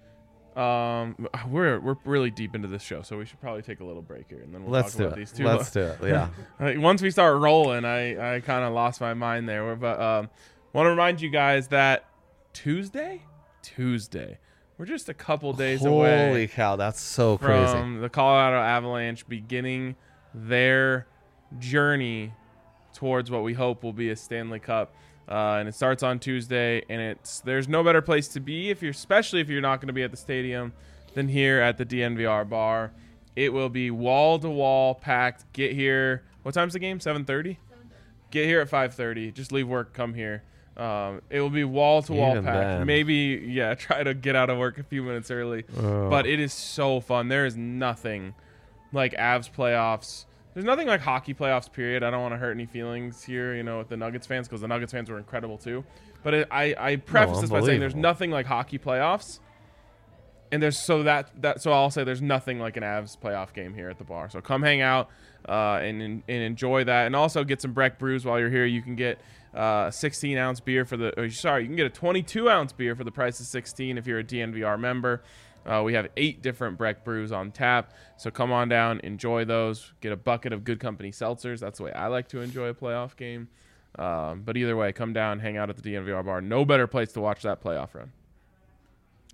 We're really deep into this show, so we should probably take a little break here, and then we'll Let's talk do about it. these two. Let's do it. Yeah. Once we start rolling, I kind of lost my mind there. But want to remind you guys that Tuesday, we're just a couple days Holy away cow, that's so crazy. from the Colorado Avalanche beginning their journey towards what we hope will be a Stanley Cup. And it starts on Tuesday, and there's no better place to be especially if you're not going to be at the stadium than here at the DNVR bar. It will be wall to wall packed. Get here. What time's the game? 7:30. Get here at 5:30. Just leave work, come here. It will be wall to wall Even packed. then. Maybe try to get out of work a few minutes early. But it is so fun. There is nothing like Avs playoffs. There's nothing like hockey playoffs, period. I don't want to hurt any feelings here, with the Nuggets fans, because the Nuggets fans were incredible too. But I preface this by saying there's unbelievable. nothing like hockey playoffs. And so I'll say there's nothing like an Avs playoff game here at the bar. So come hang out and enjoy that, and also get some Breck brews while you're here. You can get a 16-ounce beer you can get a 22-ounce beer for the price of 16 if you're a DNVR member. We have 8 different Breck brews on tap, so come on down, enjoy those. Get a bucket of Good Company seltzers. That's the way I like to enjoy a playoff game. But either way, come down, hang out at the DNVR bar. No better place to watch that playoff run.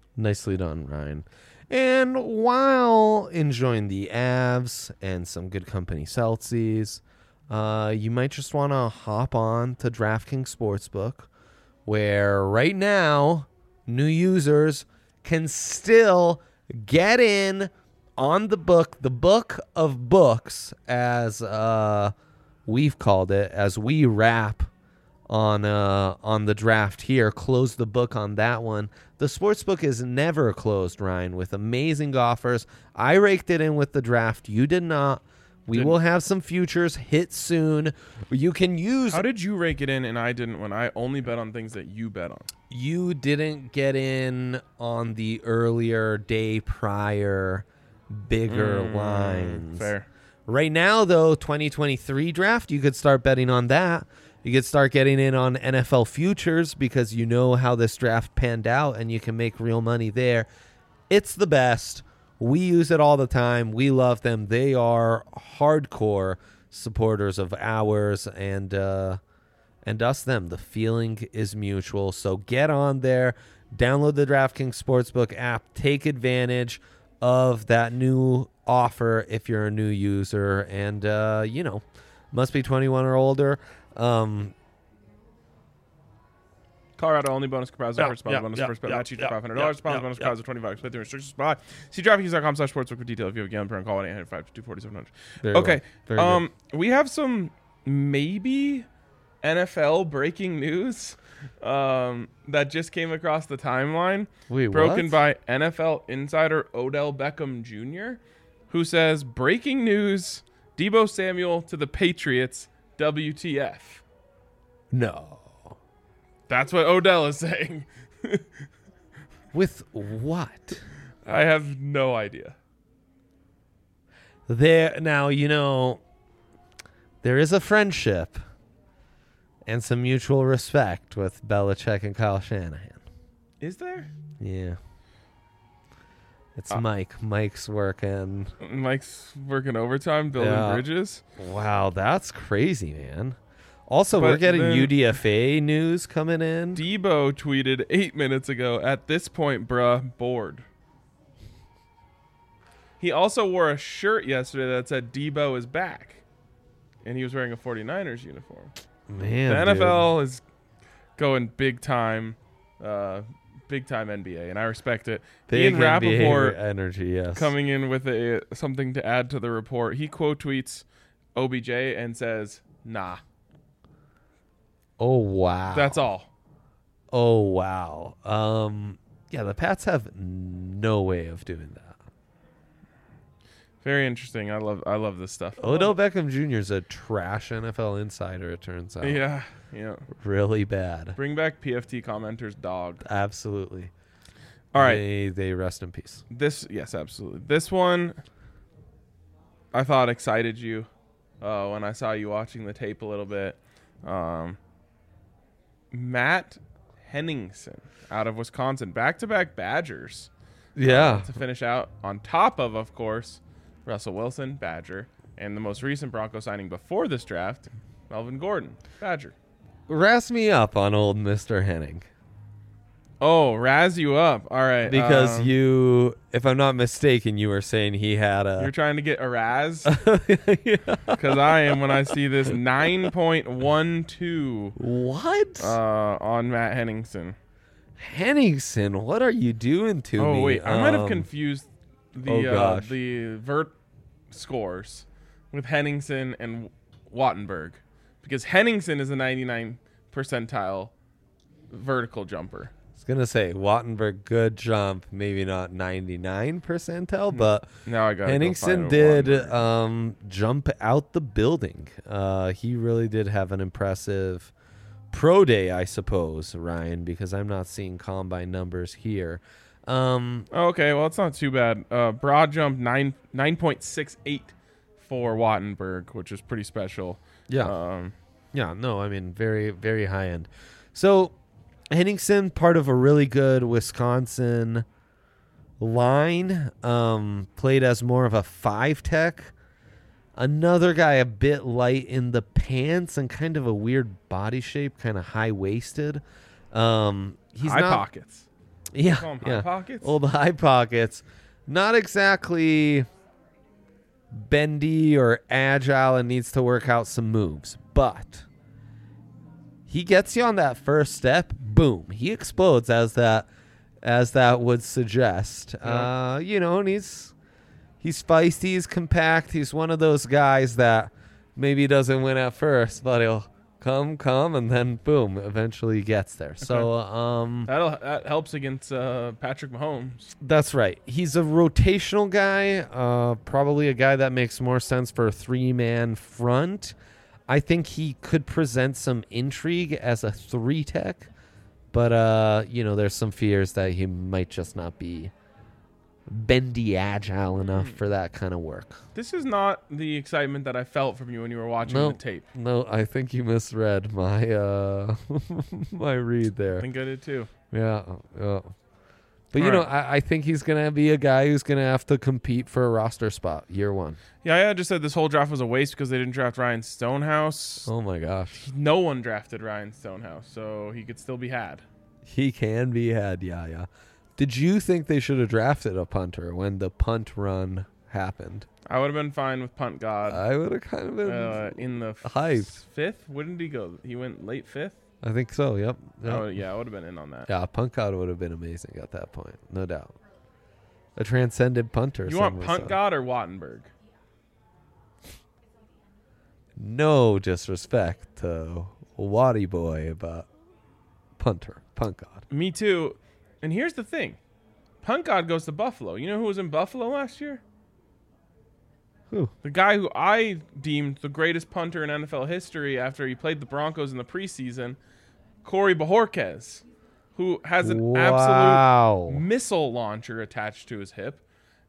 Nicely done, Ryan. And while enjoying the Avs and some good company Celtics, you might just want to hop on to DraftKings Sportsbook, where right now new users can still get in on the book of books, as we've called it, as we wrap on the draft here. Close the book on that one. The sportsbook is never closed, Ryan, with amazing offers. I raked it in with the draft. You did not. We will have some futures hit soon. You can use. How did you rake it in and I didn't when I only bet on things that you bet on? You didn't get in on the earlier day prior bigger lines. Fair. Right now, though, 2023 draft, you could start betting on that. You could start getting in on NFL futures because you know how this draft panned out and you can make real money there. It's the best. We use it all the time. We love them. They are hardcore supporters of ours and us them. The feeling is mutual. So get on there. Download the DraftKings Sportsbook app. Take advantage of that new offer if you're a new user. And, must be 21 or older. Colorado only bonus comprised of first bonus, first bet match each $500. Sponsor bonus comprised of 25. Split the restrictions apply. See DraftKings.com/sportsbook for detail. If you have a gambling problem, call 1-800-522-4700. Okay. We have some maybe NFL breaking news that just came across the timeline. Wait, broken what? by NFL insider Odell Beckham Jr., who says, breaking news, Deebo Samuel to the Patriots, WTF. No. That's what Odell is saying. With what? I have no idea. There is a friendship and some mutual respect with Belichick and Kyle Shanahan. Is there? Yeah. It's Mike. Mike's working overtime, building bridges. Wow, that's crazy, man. Also, But we're getting then UDFA news coming in. Deebo tweeted 8 minutes ago, at this point, bruh, bored. He also wore a shirt yesterday that said Deebo is back. And he was wearing a 49ers uniform. Man, The NFL is going big time NBA, and I respect it. Big Ian NBA Rappaport energy, yes. coming in with something to add to the report. He quote tweets OBJ and says, nah. Oh, wow. That's all. Oh, wow. Yeah, the Pats have no way of doing that. Very interesting. I love this stuff. Odell Beckham Jr. is a trash NFL insider, it turns out. Yeah. Really bad. Bring back PFT commenter's dog. Absolutely. All right. They rest in peace. Yes, absolutely. This one, I thought excited you when I saw you watching the tape a little bit. Matt Henningsen out of Wisconsin, back-to-back Badgers. Yeah. To finish out on top of course, Russell Wilson, Badger, and the most recent Bronco signing before this draft, Melvin Gordon, Badger. Razz me up on old Mr. Henning. Oh, razz you up. All right. Because you, if I'm not mistaken, you were saying he had a... You're trying to get a razz? Because I am when I see this 9.12. What? On Matt Henningsen. Henningsen, what are you doing to me? Oh, wait. I might have confused gosh. the vert scores with Henningsen and Wattenberg. Because Henningsen is a 99 percentile vertical jumper. I was going to say, Wattenberg, good jump. Maybe not 99 percentile, but now I got Henningsen did jump out the building. He really did have an impressive pro day, I suppose, Ryan, because I'm not seeing combine numbers here. Okay, well, it's not too bad. Broad jump 9.68 for Wattenberg, which is pretty special. Yeah. Very, very high end. So Henningsen, part of a really good Wisconsin line, played as more of a 5-tech. Another guy a bit light in the pants and kind of a weird body shape, kind of high-waisted. He's high not, pockets. Yeah, Call 'em yeah. high pockets. Old high pockets. Not exactly bendy or agile and needs to work out some moves, but he gets you on that first step. Boom, he explodes as that would suggest. Yeah. And he's feisty, he's compact. He's one of those guys that maybe doesn't win at first, but he'll come, and then boom, eventually gets there. So that helps against Patrick Mahomes. that's right. He's a rotational guy, probably a guy that makes more sense for a 3-man front. I think he could present some intrigue as a 3-tech, but there's some fears that he might just not be bendy agile enough for that kind of work. This is not the excitement that I felt from you when you were watching the tape. No, I think you misread my my read there. I think I did too. Yeah. But All right. I think he's gonna be a guy who's gonna have to compete for a roster spot year one. Yeah, I just said this whole draft was a waste because they didn't draft Ryan Stonehouse. Oh my gosh, No one drafted Ryan Stonehouse, so he could still be had. he can be had. Yeah. Did you think they should have drafted a punter when the punt run happened? I would have been fine with Punt God I would have kind of been. in the hyped. fifth. Wouldn't he go? He went late fifth. I think so. Yep. Oh yeah, I would have been in on that. Yeah, punt God would have been amazing at that point, no doubt. A transcendent punter. You some want would Punt say. God or Wattenberg? No disrespect to Waddy Boy, but punt God. Me too. And here's the thing, Punt God goes to Buffalo. You know who was in Buffalo last year? Who? The guy who I deemed the greatest punter in NFL history after he played the Broncos in the preseason, Corey Bojorquez, who has an absolute missile launcher attached to his hip.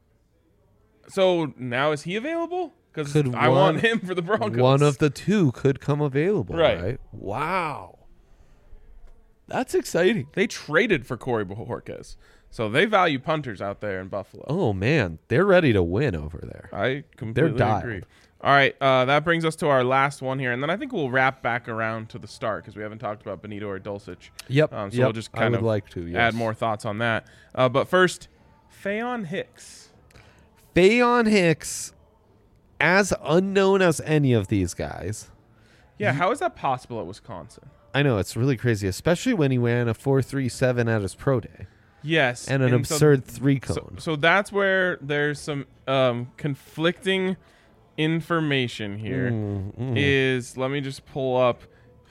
So now is he available? Because I want him for the Broncos. One of the two could come available, Right. right? Wow. That's exciting. They traded for Corey Bojorquez. So they value punters out there in Buffalo. Oh, man. They're ready to win over there. I completely dialed. agree. All right, that brings us to our last one here, and then I think we'll wrap back around to the start because we haven't talked about Benito or Dulcich. Yep. So we'll just kind I of would like to, yes. add more thoughts on that. But first, Faion Hicks. Faion Hicks, as unknown as any of these guys. Yeah, how is that possible at Wisconsin? I know, it's really crazy, especially when he ran a 4.37 at his pro day. Yes. And an absurd 3-cone. So that's where there's some conflicting information here. Is let me just pull up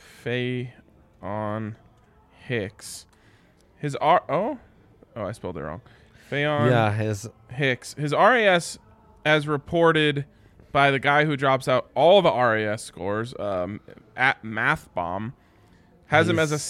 Faion Hicks. His I spelled it wrong. Faion Hicks. His RAS, as reported by the guy who drops out all the RAS scores at MathBomb, has him as a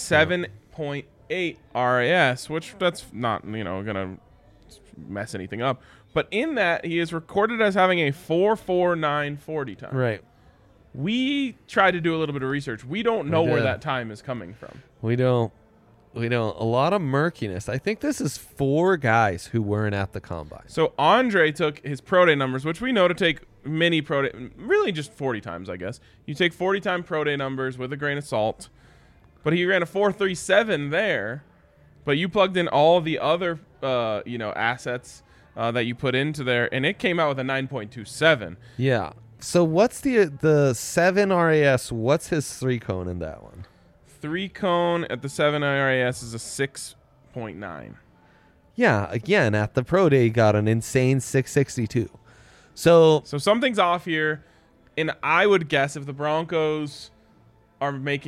7.8 RAS, which that's not gonna mess anything up. But in that, he is recorded as having a 4.49 40 time. Right. We tried to do a little bit of research. We don't know where that time is coming from. We don't. A lot of murkiness. I think this is 4 guys who weren't at the combine. So Andre took his pro day numbers, which we know to take many pro day, really just 40 times, I guess. You take 40 time pro day numbers with a grain of salt. But he ran a 4.37 there. But you plugged in all the other assets that you put into there, and it came out with a 9.27. Yeah. So what's the 7 RAS? What's his 3-cone in that one? 3-cone at the 7 RAS is a 6.9. Yeah. Again, at the pro day, he got an insane 662. So something's off here, and I would guess if the Broncos are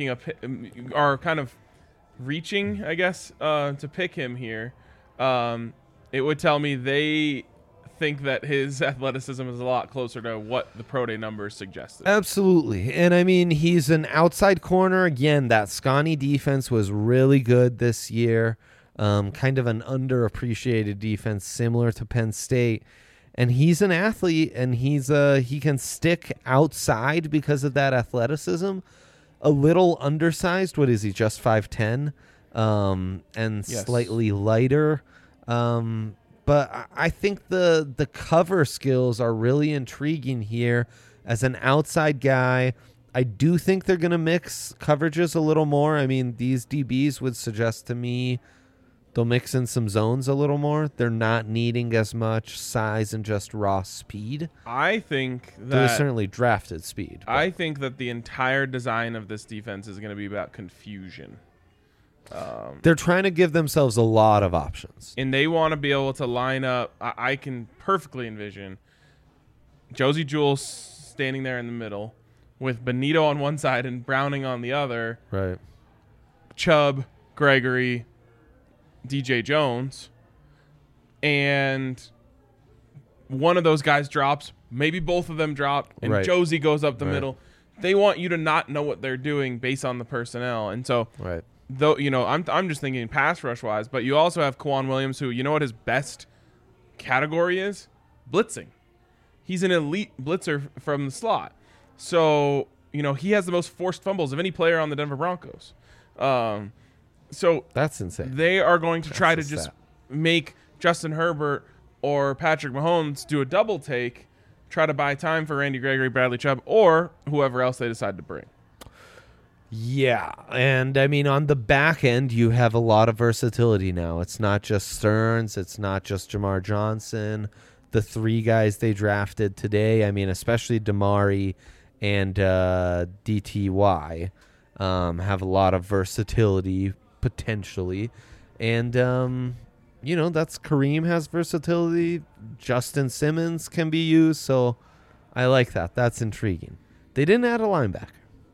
are kind of reaching, I guess, to pick him here, it would tell me they think that his athleticism is a lot closer to what the pro day numbers suggested. Absolutely. And I mean, he's an outside corner. Again, that Scotty defense was really good this year. Kind of an underappreciated defense, similar to Penn State. And he's an athlete, and he can stick outside because of that athleticism. A little undersized. What is he? Just 5'10", and Yes. slightly lighter. But I think the cover skills are really intriguing here. As an outside guy, I do think they're going to mix coverages a little more. I mean, these DBs would suggest to me They'll mix in some zones a little more. They're not needing as much size and just raw speed. I think They're that certainly drafted speed. but- I think that the entire design of this defense is going to be about confusion. They're trying to give themselves a lot of options. And they want to be able to line up. I can perfectly envision Josie Jewell standing there in the middle with Benito on one side and Browning on the other. Right. Chubb, Gregory, DJ Jones, and one of those guys drops. Maybe both of them drop, and Right. Josie goes up the Right. middle. They want you to not know what they're doing based on the personnel, and so Right. though I'm just thinking pass rush wise, but you also have Kwan Williams, who you know what his best category is? Blitzing. He's an elite blitzer from the slot, so he has the most forced fumbles of any player on the Denver Broncos. So That's insane. they are going to try to That's a just stat. make Justin Herbert or Patrick Mahomes do a double take, try to buy time for Randy Gregory, Bradley Chubb, or whoever else they decide to bring. Yeah, and I mean on the back end you have a lot of versatility now. It's not just Stearns, it's not just Jamar Johnson. The three guys they drafted today, I mean especially Damari and DTY, have a lot of versatility potentially, and that's Kareem has versatility. Justin Simmons can be used, so I like that. That's intriguing. They didn't add a linebacker.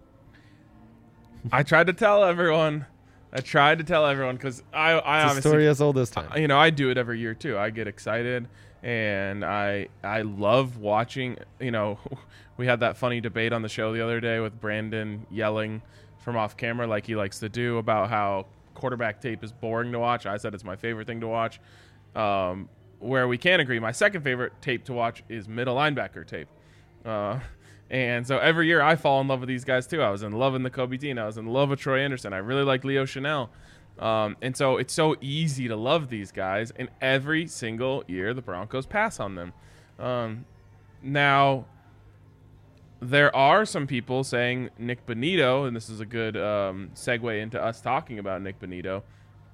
I tried to tell everyone because I It's a obviously story as old as time. I do it every year too. I get excited and I love watching. We had that funny debate on the show the other day with Brandon yelling from off camera like he likes to do about how quarterback tape is boring to watch. I said it's my favorite thing to watch. Where we can agree, my second favorite tape to watch is middle linebacker tape. And so every year I fall in love with these guys too. I was in love with Nakobe Dean. I was in love with Troy Anderson. I really like Leo Chanel. And so it's so easy to love these guys. And every single year the Broncos pass on them. Now, there are some people saying Nick Bonito, and this is a good segue into us talking about Nick Bonito,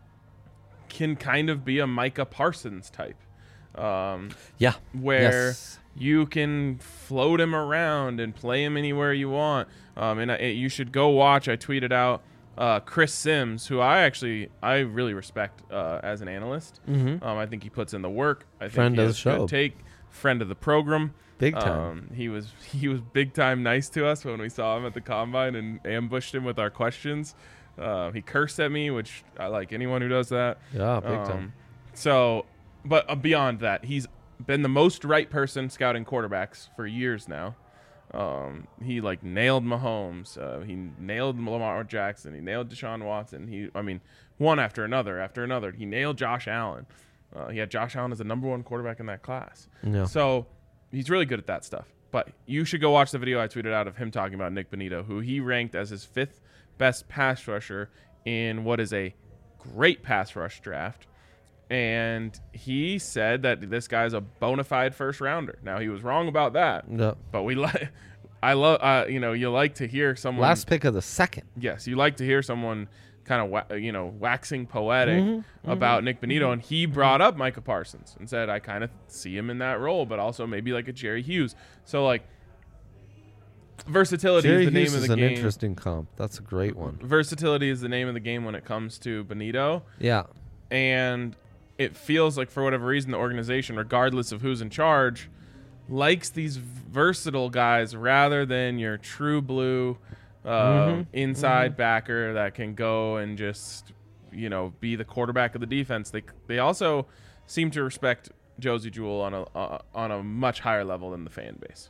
can kind of be a Micah Parsons type. Yeah. Where Yes. you can float him around and play him anywhere you want. You should go watch. I tweeted out Chris Sims, who I really respect as an analyst. Mm-hmm. I think he puts in the work. I think Friend he of has the show. good take. Friend of the program. Big time. He was big time nice to us when we saw him at the combine and ambushed him with our questions. He cursed at me, which I like anyone who does that. Yeah, big time. But beyond that, he's been the most right person scouting quarterbacks for years now. He nailed Mahomes. He nailed Lamar Jackson. He nailed Deshaun Watson. One after another. He nailed Josh Allen. He had Josh Allen as the number one quarterback in that class. Yeah. So he's really good at that stuff. But you should go watch the video I tweeted out of him talking about Nick Bonito, who he ranked as his 5th best pass rusher in what is a great pass rush draft. And he said that this guy's a bona fide first rounder. Now he was wrong about that, No. but I love, you like to hear someone. Last pick of the second. Yes, you like to hear someone kind of, waxing poetic about Nick Bonito. And he brought up Micah Parsons and said, I kind of see him in that role, but also maybe like a Jerry Hughes. So versatility Jerry is the Hughes name of is the an game. interesting comp. That's a great one. Versatility is the name of the game when it comes to Bonito. Yeah. And it feels like for whatever reason the organization, regardless of who's in charge, likes these versatile guys rather than your true blue inside backer that can go and just be the quarterback of the defense. They also seem to respect Josie Jewell on a much higher level than the fan base.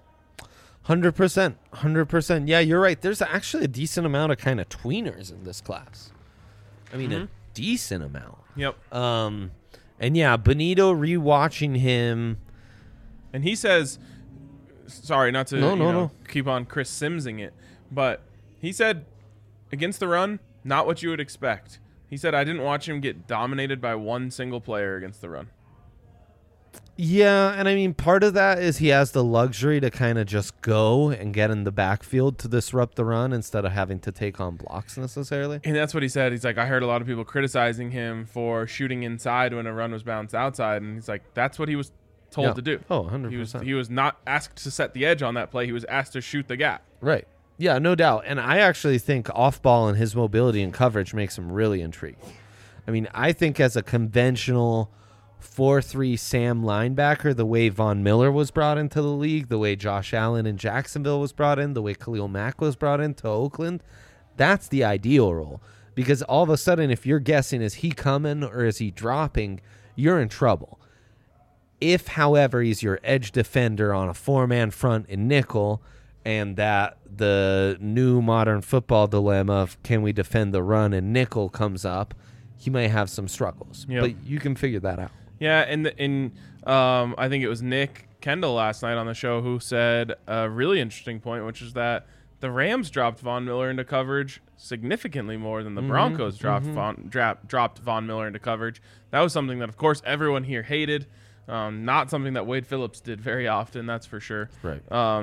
100%. Yeah, you're right. There's actually a decent amount of kind of tweeners in this class. I mean, a decent amount. Yep. And yeah, Bonito, rewatching him. And he says, sorry, not to No. keep on Chris Simsing it, but he said against the run, not what you would expect. He said, I didn't watch him get dominated by one single player against the run. Yeah, and I mean, part of that is he has the luxury to kind of just go and get in the backfield to disrupt the run instead of having to take on blocks necessarily. And that's what he said. He's like, I heard a lot of people criticizing him for shooting inside when a run was bounced outside. And he's like, that's what he was told Yeah. to do. Oh, 100%. He was not asked to set the edge on that play. He was asked to shoot the gap. Right. Yeah, no doubt. And I actually think off ball and his mobility and coverage makes him really intriguing. I mean, I think as a conventional 4-3 Sam linebacker, the way Von Miller was brought into the league, the way Josh Allen in Jacksonville was brought in, the way Khalil Mack was brought into Oakland, that's the ideal role. Because all of a sudden, if you're guessing, is he coming or is he dropping, you're in trouble. If, however, he's your edge defender on a 4-man front in nickel, and that the new modern football dilemma of can we defend the run and nickel comes up, he might have some struggles. Yep. But you can figure that out. Yeah, and I think it was Nick Kendall last night on the show who said a really interesting point, which is that the Rams dropped Von Miller into coverage significantly more than the Broncos dropped Von Miller into coverage. That was something that, of course, everyone here hated. Not something that Wade Phillips did very often, that's for sure. Right.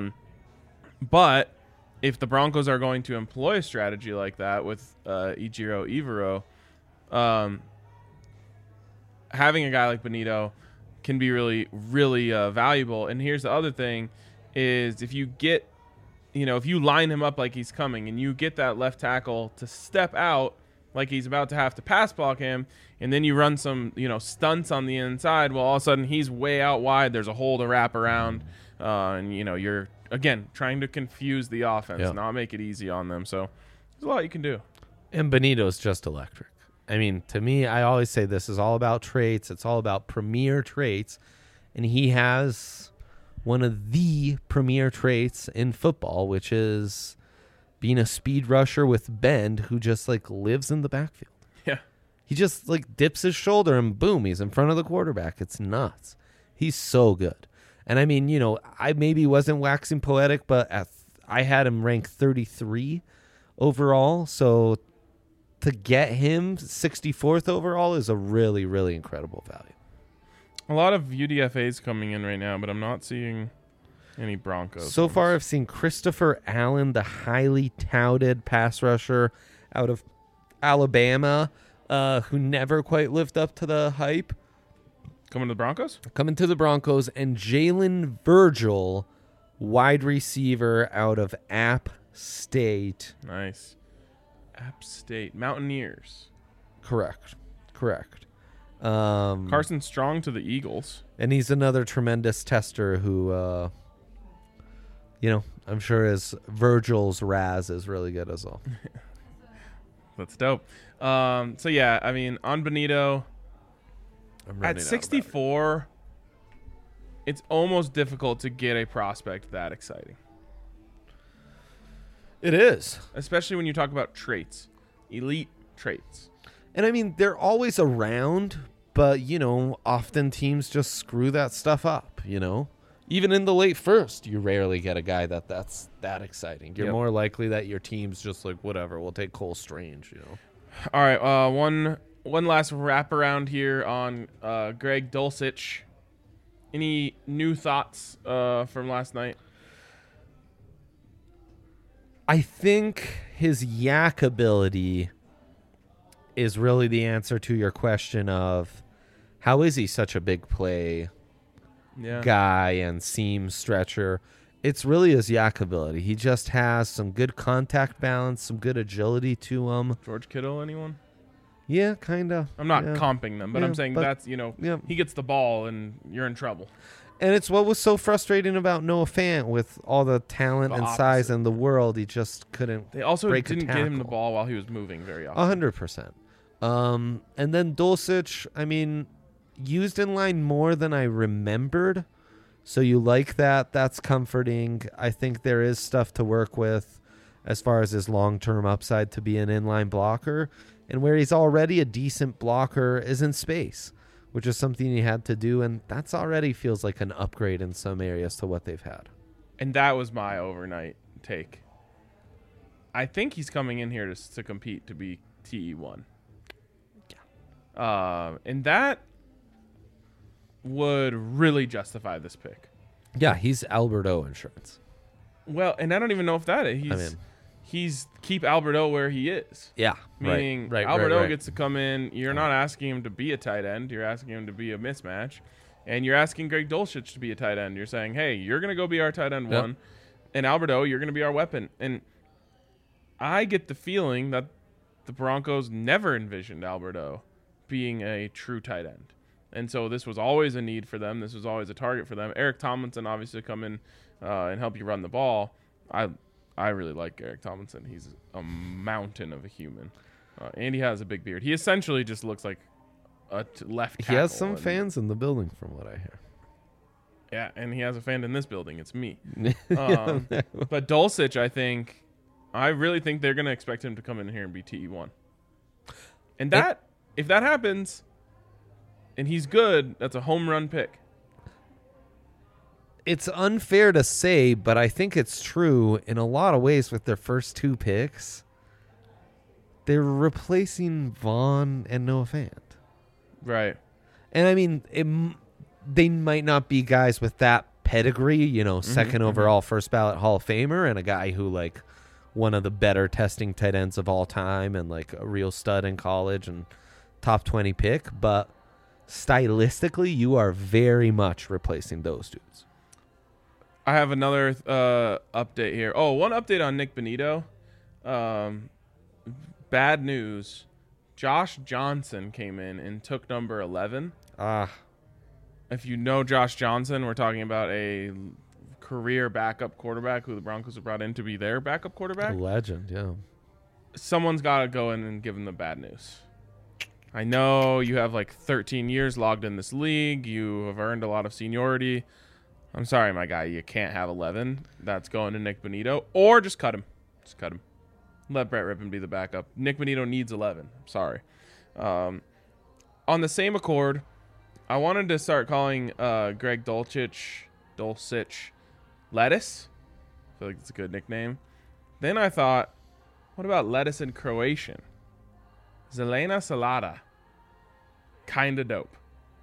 But if the Broncos are going to employ a strategy like that with Ejiro Evero, having a guy like Benito can be really, really valuable. And here's the other thing is if you get, if you line him up like he's coming and you get that left tackle to step out like he's about to have to pass block him, and then you run some, stunts on the inside, well, all of a sudden he's way out wide. There's a hole to wrap around, and, you're, again, trying to confuse the offense, not make it easy on them. So there's a lot you can do. And Benito's just electric. I mean, to me, I always say this is all about traits. It's all about premier traits. And he has one of the premier traits in football, which is being a speed rusher with bend who just, lives in the backfield. Yeah. He just, dips his shoulder and boom, he's in front of the quarterback. It's nuts. He's so good. And, I mean, I maybe wasn't waxing poetic, but I had him ranked 33 overall. So to get him 64th overall is a really, really incredible value. A lot of UDFAs coming in right now, but I'm not seeing any Broncos. So far, I've seen Christopher Allen, the highly touted pass rusher out of Alabama, who never quite lived up to the hype, Coming to the Broncos? coming to the Broncos, and Jalen Virgil, wide receiver out of App State. Nice. App State. Mountaineers. Correct. Carson Strong to the Eagles. And he's another tremendous tester who, I'm sure his Virgil's Raz is really good as well. That's dope. So, yeah, I mean, on Benito, I'm at running out of 64, it's almost difficult to get a prospect that exciting. It is. Especially when you talk about traits. Elite traits. And I mean, they're always around, but, often teams just screw that stuff up, Even in the late first, you rarely get a guy that's that exciting. You're more likely that your team's just whatever, we'll take Cole Strange, All right, one last wraparound here on Greg Dulcich. Any new thoughts from last night? I think his yak ability is really the answer to your question of how is he such a big play guy and seam stretcher. It's really his yak ability. He just has some good contact balance, some good agility to him. George Kittle, anyone? Yeah, kind of. I'm not comping them, but Yeah, I'm saying but- that's, he gets the ball and you're in trouble. And it's what was so frustrating about Noah Fant with all the talent The and size opposite. in the world. He just couldn't They also break a didn't get him the tackle. ball while he was moving very often. 100%. And then Dulcich, I mean, used in line more than I remembered. So you like that. That's comforting. I think there is stuff to work with as far as his long-term upside to be an inline blocker. And where he's already a decent blocker is in space, which is something he had to do. And that's already feels like an upgrade in some areas to what they've had. And that was my overnight take. I think he's coming in here to compete to be TE1. And that would really justify this pick. Yeah, he's Alberto insurance. Well, and I don't even know if that is. He's keep Alberto where he is. Yeah, Meaning right, Alberto gets to come in. You're not asking him to be a tight end. You're asking him to be a mismatch. And you're asking Greg Dulcich to be a tight end. You're saying, hey, you're going to go be our tight end one. And Alberto, you're going to be our weapon. And I get the feeling that the Broncos never envisioned Alberto being a true tight end. And so this was always a need for them. This was always a target for them. Eric Tomlinson obviously come in and help you run the ball. I really like Eric Tomlinson. He's a mountain of a human. And he has a big beard. He essentially just looks like a left tackle. He has some fans in the building from what I hear. Yeah, and he has a fan in this building. It's me. But Dulcich, I really think they're going to expect him to come in here and be TE1. And if that happens and he's good, that's a home run pick. It's unfair to say, but I think it's true in a lot of ways with their first 2 picks. They're replacing Vaughn and Noah Fant. Right. And I mean, they might not be guys with that pedigree, second overall first ballot Hall of Famer and a guy who like one of the better testing tight ends of all time and like a real stud in college and top 20 pick. But stylistically, you are very much replacing those dudes. I have another update here. Oh, one update on Nick Benito. Bad news. Josh Johnson came in and took number 11. If you know Josh Johnson, we're talking about a career backup quarterback who the Broncos have brought in to be their backup quarterback. A legend, yeah. Someone's got to go in and give him the bad news. I know you have like 13 years logged in this league. You have earned a lot of seniority. I'm sorry, my guy. You can't have 11. That's going to Nick Benito. Or just cut him. Just cut him. Let Brett Rippon be the backup. Nick Benito needs 11. I'm sorry. On the same accord, I wanted to start calling Greg Dulcich Lettuce. I feel like it's a good nickname. Then I thought, what about lettuce in Croatian? Zelena Salata. Kinda dope.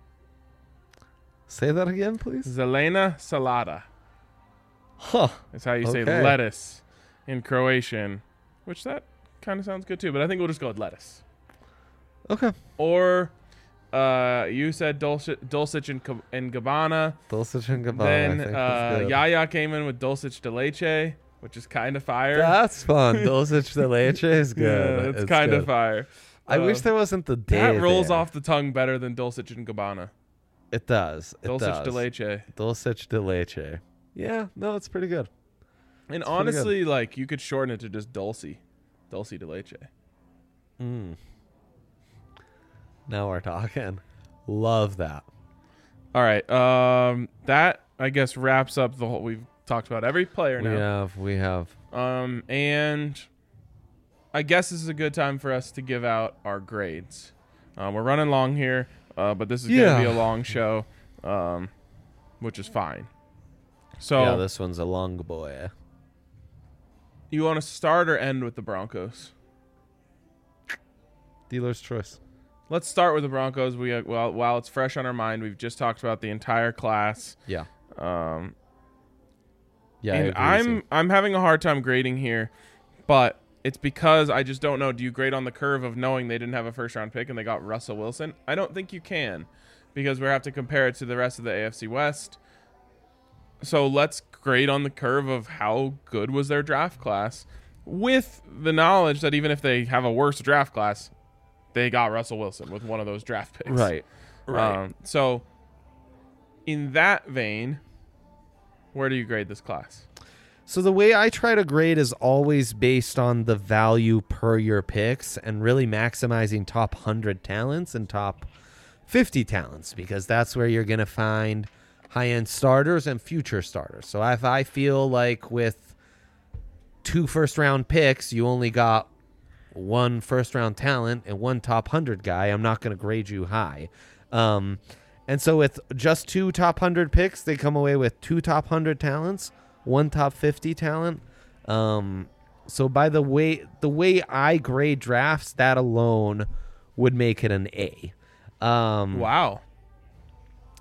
Say that again, please. Zelena Salata. Huh. That's how you say Okay. lettuce in Croatian, which that kind of sounds good too, but I think we'll just go with lettuce. Okay. Or you said Dulcich and Gabbana. Dulcich and Gabbana. Then I think that's good. Yaya came in with Dulcich de Leche, which is kind of fire. That's fun. Dulcich de Leche is good. Yeah, it's kind of good. fire. I wish there wasn't the day. That rolls there. off the tongue better than Dulcich and Gabbana. It does. It Dulcich does. de Leche. Dulcich de Leche. Yeah, no, it's pretty good. And It's pretty honestly, like, you could shorten it to just Dulce. Dulce de Leche. Now we're talking. Love that. All right. That, I guess, wraps up the whole... We've talked about every player now. We have. And I guess this is a good time for us to give out our grades. We're running long here, but this is going to be a long show, which is fine. So Yeah, this one's a long boy. you want to start or end with the Broncos? Dealer's choice. Let's start with the Broncos. While it's fresh on our mind, we've just talked about the entire class. Yeah. And I agree with you. I'm having a hard time grading here, but it's because I just don't know. Do you grade on the curve of knowing they didn't have a first round pick and they got Russell Wilson? I don't think you can, because we have to compare it to the rest of the AFC West. So let's grade on the curve of how good was their draft class, with the knowledge that even if they have a worse draft class, they got Russell Wilson with one of those draft picks. Right. So in that vein, where do you grade this class? So the way I try to grade is always based on the value per your picks and really maximizing top 100 talents and top 50 talents, because that's where you're going to find high-end starters and future starters. So if I feel like with 2 first-round picks, you only got 1 first-round talent and 1 top 100 guy, I'm not going to grade you high. And so with just 2 top 100 picks, they come away with 2 top 100 talents, 1 top 50 talent. So by the way I grade drafts, that alone would make it an A. Wow.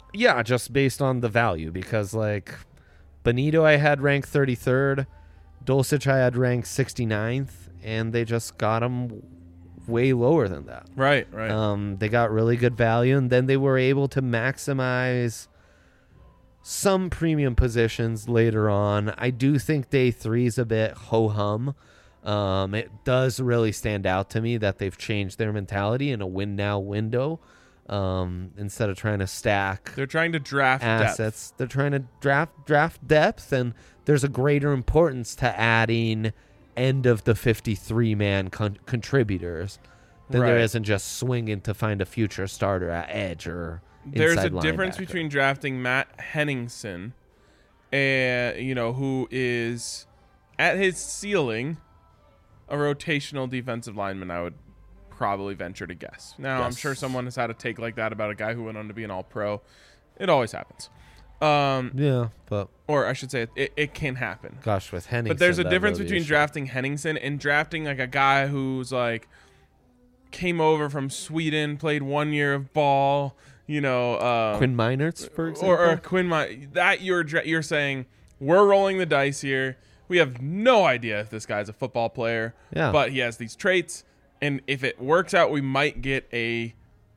Yeah, just based on the value, because like Benito I had ranked 33rd, Dulcich I had ranked 69th, and they just got him way lower than that. Right. They got really good value, and then they were able to maximize some premium positions later on. I do think day 3 is a bit ho-hum. It does really stand out to me that they've changed their mentality in a win now window. Instead of trying to stack They're trying to draft assets, depth. they're trying to draft depth, and there's a greater importance to adding end of the 53-man contributors than there Right. isn't just swinging to find a future starter at edge or There's a inside difference linebacker. between drafting Matt Henningsen, and who is at his ceiling a rotational defensive lineman. I would probably venture to guess. Now, I'm Yes. sure someone has had a take like that about a guy who went on to be an All-Pro. It always happens. Yeah, but Or I should say it can happen. gosh, with Henningsen, But there's a that difference really between is- drafting Henningsen and drafting like a guy who's like came over from Sweden, played 1 year of ball, Quinn Meinerz, for example. or Quinn. That you're saying we're rolling the dice here. We have no idea if this guy's a football player, Yeah. but he has these traits, and if it works out, we might get a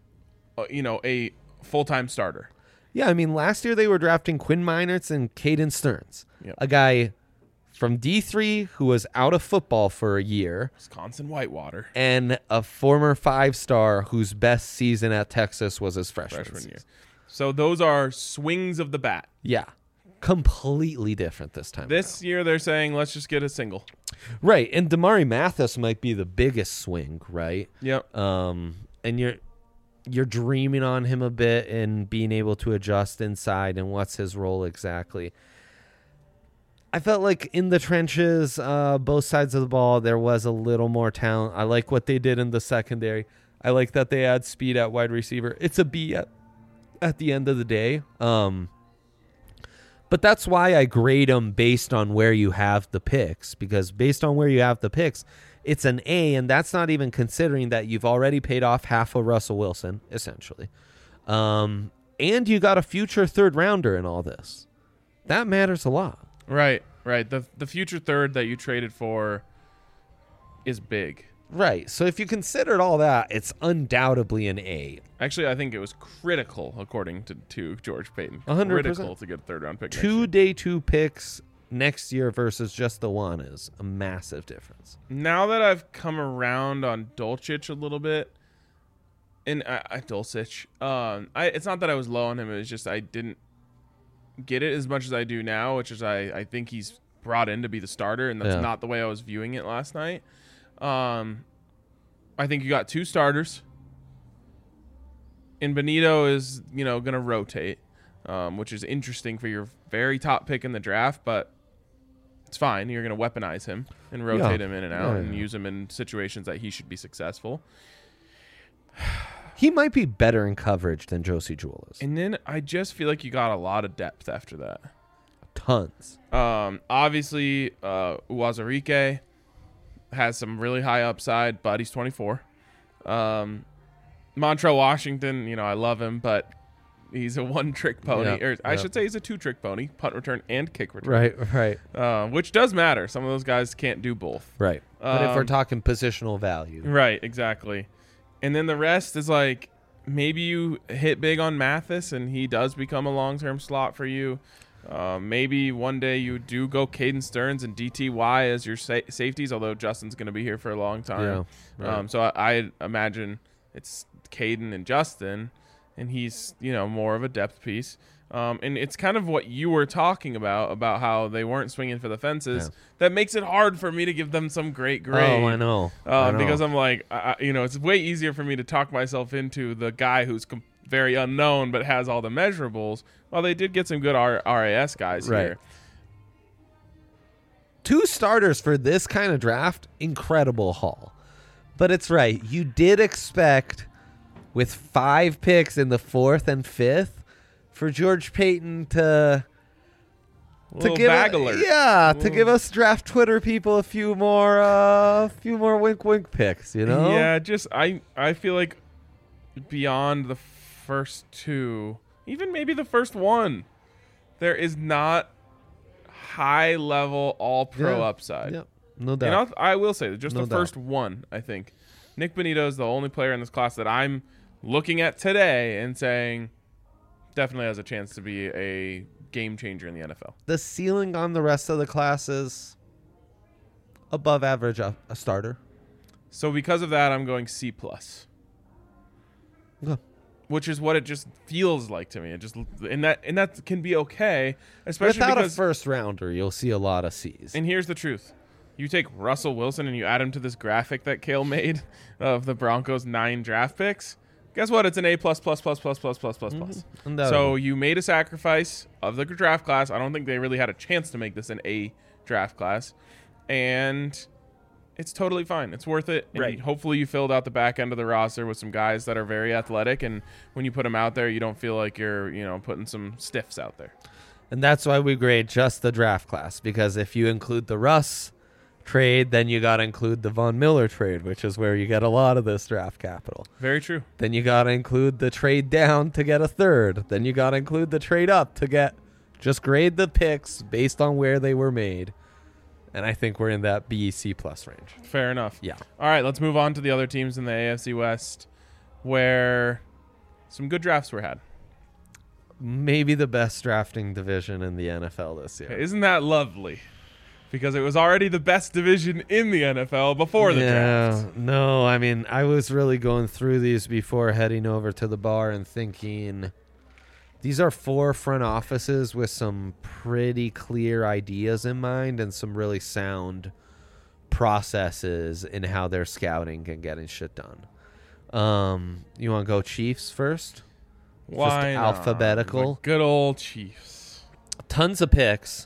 full-time starter. Yeah, I mean, last year they were drafting Quinn Meinerz and Caden Stearns, Yep. a guy from D3 who was out of football for a year, Wisconsin Whitewater and a former 5-star whose best season at Texas was his freshman freshman year. season. So those are swings of the bat. Yeah, completely different this time. This year they're saying let's just get a single. Right, and Damari Mathis might be the biggest swing, right? Yep. And you're dreaming on him a bit and being able to adjust inside and what's his role exactly. I felt like in the trenches, both sides of the ball, there was a little more talent. I like what they did in the secondary. I like that they add speed at wide receiver. It's a B at the end of the day. But that's why I grade them based on where you have the picks, because based on where you have the picks, it's an A, and that's not even considering that you've already paid off half of Russell Wilson, essentially. And you got a future third rounder in all this. That matters a lot. Right. The future third that you traded for is big. Right. So if you considered all that, it's undoubtedly an A. Actually, I think it was critical, according to George Payton. 100%. Critical to get a third-round pick. next Two year. day 2 picks next year versus just the one is a massive difference. Now that I've come around on Dulcich a little bit, and Dulcich, it's not that I was low on him. It was just I didn't get it as much as I do now, which is I think he's brought in to be the starter, and that's Yeah. not the way I was viewing it last night. I think you got 2 starters, and Benito is going to rotate, which is interesting for your very top pick in the draft, but it's fine. You're going to weaponize him and rotate him in and out and use him in situations that he should be successful. He might be better in coverage than Josie Jewell is. And then I just feel like you got a lot of depth after that. Tons. Obviously, Uwazurike has some really high upside, but he's 24. Montrell Washington, I love him, but he's a one-trick pony. Yeah, Or I yeah. should say he's a two-trick pony, punt return and kick return. Right. Which does matter. Some of those guys can't do both. Right. But if we're Um, talking positional value. Right, exactly. And then the rest is like maybe you hit big on Mathis and he does become a long-term slot for you. Maybe one day you do go Caden Stearns and DTY as your safeties, although Justin's going to be here for a long time. Yeah, right. So I imagine it's Caden and Justin, and he's more of a depth piece. And it's kind of what you were talking about how they weren't swinging for the fences. Yeah. That makes it hard for me to give them some great grade. Oh, I know. I know. Because I'm like, it's way easier for me to talk myself into the guy who's very unknown but has all the measurables. Well, they did get some good RAS guys Right. here. 2 starters for this kind of draft, incredible haul. But it's right. You did expect, with 5 picks in the 4th and 5th, for George Payton to Little give bag alert. to give us draft Twitter people a few more wink picks, Yeah, just I feel like beyond the first 2, even maybe the first one, there is not high level all pro Yeah. upside. Yep. No And doubt. I will say that just No the first one, I think. Nick Bonito is the only player in this class that I'm looking at today and saying definitely has a chance to be a game changer in the NFL. The ceiling on the rest of the class is above average a starter. So because of that, I'm going C plus, Okay. which is what it just feels like to me. It just and that can be okay, especially Without because a first rounder, you'll see a lot of C's. And here's the truth. You take Russell Wilson and you add him to this graphic that Kale made of the Broncos' 9 draft picks. Guess what? It's an A plus plus plus plus plus plus plus plus. Undoubtedly. So you made a sacrifice of the draft class. I don't think they really had a chance to make this an A draft class. And it's totally fine. It's worth it. And Right. hopefully you filled out the back end of the roster with some guys that are very athletic. And when you put them out there, you don't feel like you're, putting some stiffs out there. And that's why we grade just the draft class, because if you include the Russ trade, then you got to include the Von Miller trade, which is where you get a lot of this draft capital. Very true. Then you got to include the trade down to get a third. Then you got to include the trade up to get, just grade the picks based on where they were made. And I think we're in that B, C plus range. Fair enough. Yeah. All right, let's move on to the other teams in the AFC West where some good drafts were had. Maybe the best drafting division in the NFL this year. Isn't that lovely? Because it was already the best division in the NFL before the draft. No, I mean, I was really going through these before heading over to the bar and thinking these are 4 front offices with some pretty clear ideas in mind and some really sound processes in how they're scouting and getting shit done. You want to go Chiefs first? Why not? Alphabetical. The good old Chiefs. Tons of picks.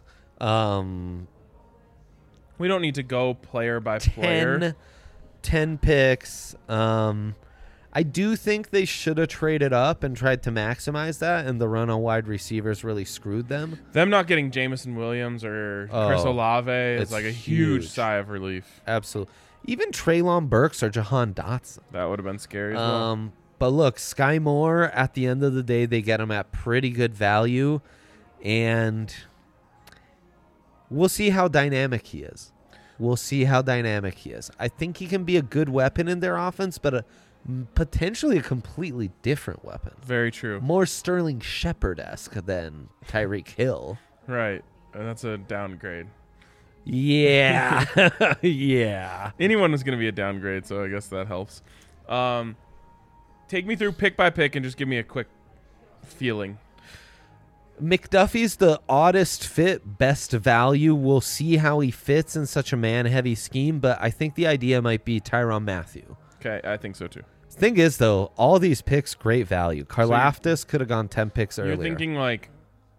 We don't need to go player by player. 10 picks. I do think they should have traded up and tried to maximize that, and the run on wide receivers really screwed them. Them not getting Jameson Williams or Chris Oh, Olave is it's like a huge huge. sigh of relief. Absolutely. Even Treylon Burks or Jahan Dotson. That would have been scary as well. But look, Sky Moore, at the end of the day, they get him at pretty good value, and we'll see how dynamic he is. I think he can be a good weapon in their offense, but potentially a completely different weapon. Very true. More Sterling Shepard-esque than Tyreek Hill. Right. And that's a downgrade. Yeah. Yeah. Anyone is going to be a downgrade, so I guess that helps. Take me through pick by pick and just give me a quick feeling. McDuffie's the oddest fit, best value. We'll see how he fits in such a man-heavy scheme, but I think the idea might be Tyrann Mathieu. Okay, I think so too. Thing is, though, all these picks, great value. Karlaftis could have gone 10 picks earlier. You're thinking like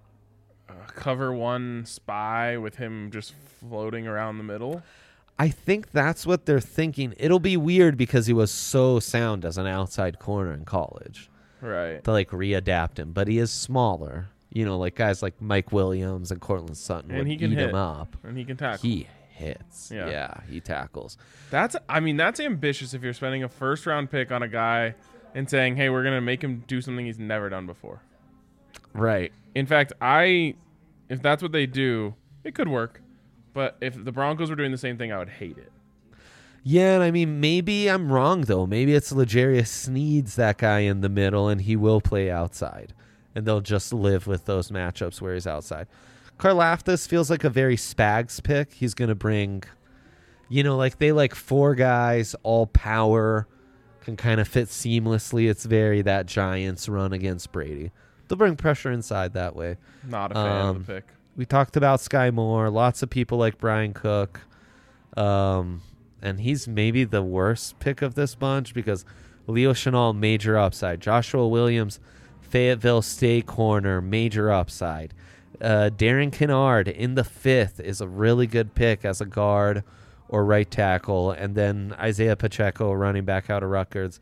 cover one spy with him just floating around the middle? I think that's what they're thinking. It'll be weird because he was so sound as an outside corner in college Right. to like readapt him, but he is smaller. You know, like guys like Mike Williams and Cortland Sutton And would he can eat hit. him up. And he can tackle. He hits. Yeah. Yeah, he tackles. That's ambitious if you're spending a first round pick on a guy and saying, "Hey, we're going to make him do something he's never done before." Right. In fact, if that's what they do, it could work. But if the Broncos were doing the same thing, I would hate it. Yeah, and I mean, maybe I'm wrong, though. Maybe it's L'Jarius Sneed's that guy in the middle, and he will play outside. And they'll just live with those matchups where he's outside. Karlaftis feels like a very Spags pick. He's going to bring, like they like 4 guys, all power, can kind of fit seamlessly. It's very that Giants run against Brady. They'll bring pressure inside that way. Not a fan of the pick. We talked about Sky Moore. Lots of people like Brian Cook. And he's maybe the worst pick of this bunch because Leo Chenal, major upside. Joshua Williams, Fayetteville State corner, major upside. Darren Kennard in the 5th is a really good pick as a guard or right tackle. And then Isaiah Pacheco, running back out of Rutgers.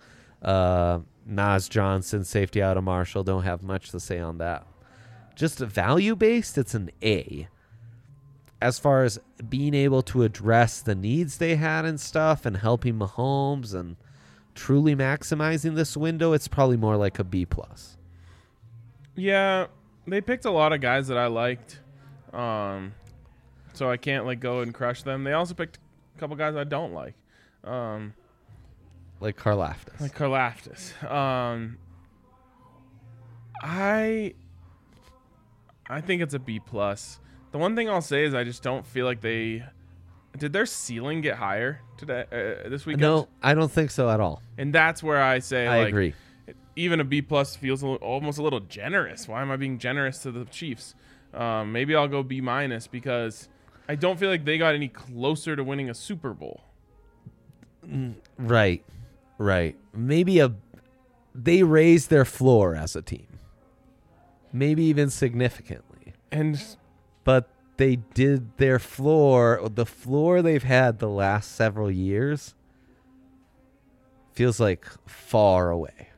Nas Johnson, safety out of Marshall. Don't have much to say on that. Just value-based, it's an A. As far as being able to address the needs they had and stuff and helping Mahomes and truly maximizing this window, it's probably more like a B+. Yeah, they picked a lot of guys that I liked, so I can't like go and crush them. They also picked a couple guys I don't like, Like Karlaftis. like Karlaftis. I think it's a B plus. The one thing I'll say is I just don't feel like did their ceiling get higher today this weekend? No, I don't think so at all. And that's where I say I like, agree. even a B plus feels almost a little generous. Why am I being generous to the Chiefs? Maybe I'll go B minus because I don't feel like they got any closer to winning a Super Bowl. Right. Maybe they raised their floor as a team. Maybe even significantly. But they did the floor they've had the last several years feels like far away.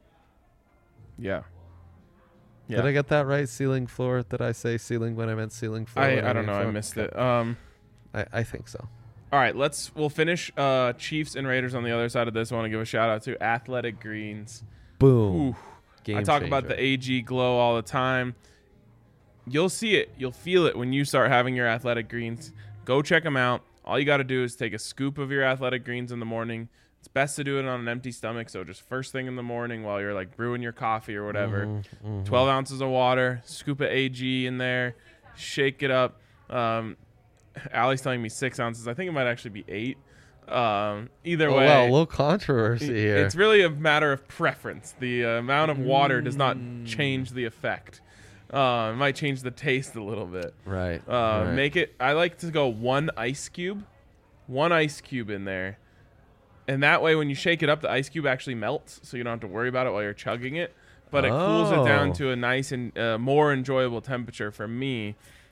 Yeah. Did I get that right? Ceiling, floor? Did I say ceiling when I meant ceiling, floor? I don't know. I missed it. I think so. All right, we'll finish Chiefs and Raiders on the other side of this. I want to give a shout out to Athletic Greens. Boom. Ooh. Game I talk about changer. the AG glow all the time. You'll see it. You'll feel it when you start having your Athletic Greens. Go check them out. All you got to do is take a scoop of your Athletic Greens in the morning. It's best to do it on an empty stomach, so just first thing in the morning while you're like brewing your coffee or whatever. 12 ounces of water, scoop of AG in there, shake it up. Allie's telling me 6 ounces. I think it might actually be 8. Either way, Well, a little controversy here. it's really a matter of preference. The amount of water does not change the effect. It might change the taste a little bit. Right. Make it. I like to go one ice cube in there, and that way when you shake it up, the ice cube actually melts, so you don't have to worry about it while you're chugging it. But it cools it down to a nice and more enjoyable temperature for me.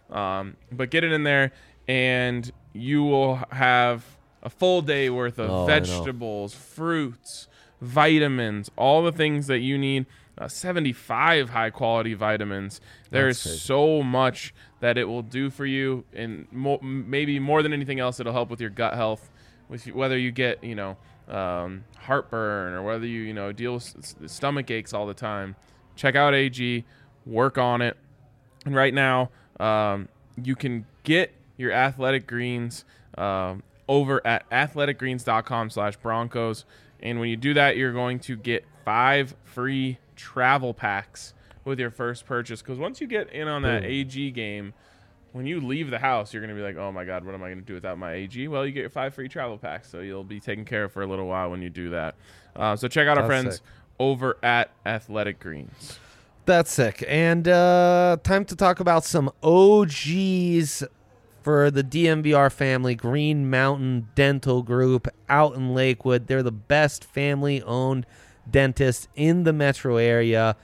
But get it in there, and you will have a full day worth of vegetables, fruits, vitamins, all the things that you need. 75 high-quality vitamins. There is so much that it will do for you, and maybe more than anything else, it'll help with your gut health, whether you get heartburn or whether you deal with stomach aches all the time. Check out AG, work on it, and right now you can get your Athletic Greens over at athleticgreens.com/Broncos, and when you do that, you're going to get 5 free travel packs with your first purchase, because once you get in on that AG game, when you leave the house, you're going to be like, oh my god, what am I going to do without my AG? Well, you get your 5 free travel packs, so you'll be taken care of for a little while when you do that. So check out our friends over at Athletic Greens. That's sick. And time to talk about some OGs for the DMVR family. Green Mountain Dental Group out in Lakewood. They're the best family-owned dentist in the metro area.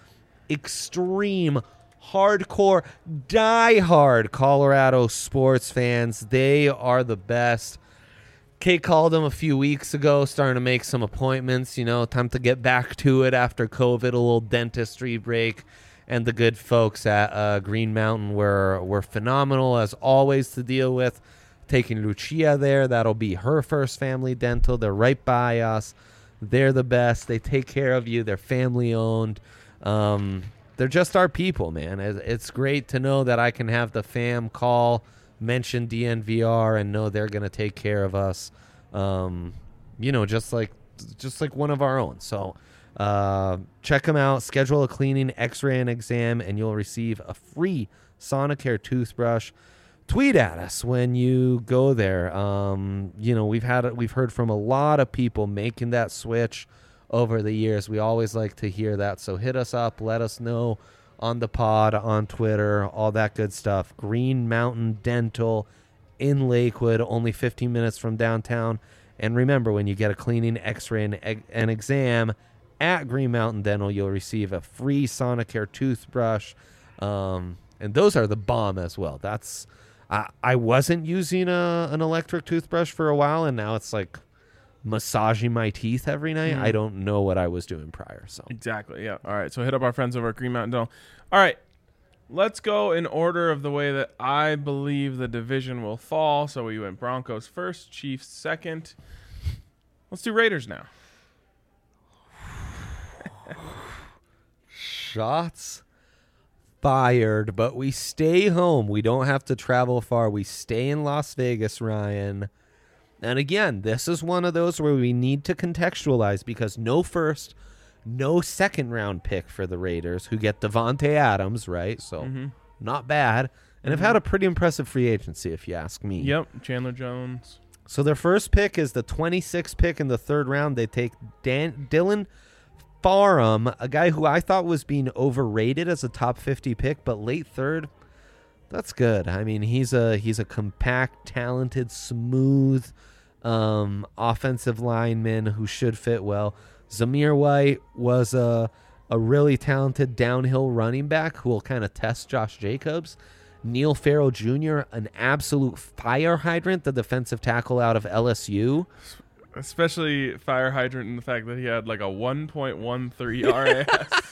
Extreme, hardcore, die-hard Colorado sports fans. They are the best. Kate called them a few weeks ago, starting to make some appointments. Time to get back to it after COVID, a little dentistry break. And the good folks at Green Mountain were phenomenal, as always, to deal with. Taking Lucia there. That'll be her first family dental. They're right by us. They're the best. They take care of you. They're family-owned. They're just our people, man. It's great to know that I can have the fam call, mention DNVR, and know they're going to take care of us, just like one of our own. So check them out. Schedule a cleaning, x-ray, and exam, and you'll receive a free Sonicare toothbrush. Tweet at us when you go there. We've heard from a lot of people making that switch over the years. We always like to hear that. So hit us up, let us know on the pod, on Twitter, all that good stuff. Green Mountain Dental in Lakewood, only 15 minutes from downtown. And remember, when you get a cleaning, x-ray, and exam at Green Mountain Dental, you'll receive a free Sonicare toothbrush. And those are the bomb as well. I wasn't using an electric toothbrush for a while, and now it's like massaging my teeth every night. I don't know what I was doing prior. So Exactly, yeah. All right, so hit up our friends over at Green Mountain Dental. All right, let's go in order of the way that I believe the division will fall. So we went Broncos first, Chiefs second. Let's do Raiders now. shots fired, but we stay home. We don't have to travel far. We stay in Las Vegas, Ryan. And again, this is one of those where we need to contextualize because no first, no second round pick for the Raiders, who get Devontae Adams, right? So not bad. And have had a pretty impressive free agency, if you ask me. Yep, Chandler Jones. So their first pick is the 26th pick in the third round. They take Dylan Farham, a guy who I thought was being overrated as a top 50 pick, but late third, that's good. I mean, he's a compact, talented, smooth offensive lineman who should fit well. Zamir White was a really talented downhill running back who will kind of test Josh Jacobs. Neil Farrell Jr., an absolute fire hydrant, the defensive tackle out of LSU. Especially fire hydrant in the fact that he had like a 1.13 RAS.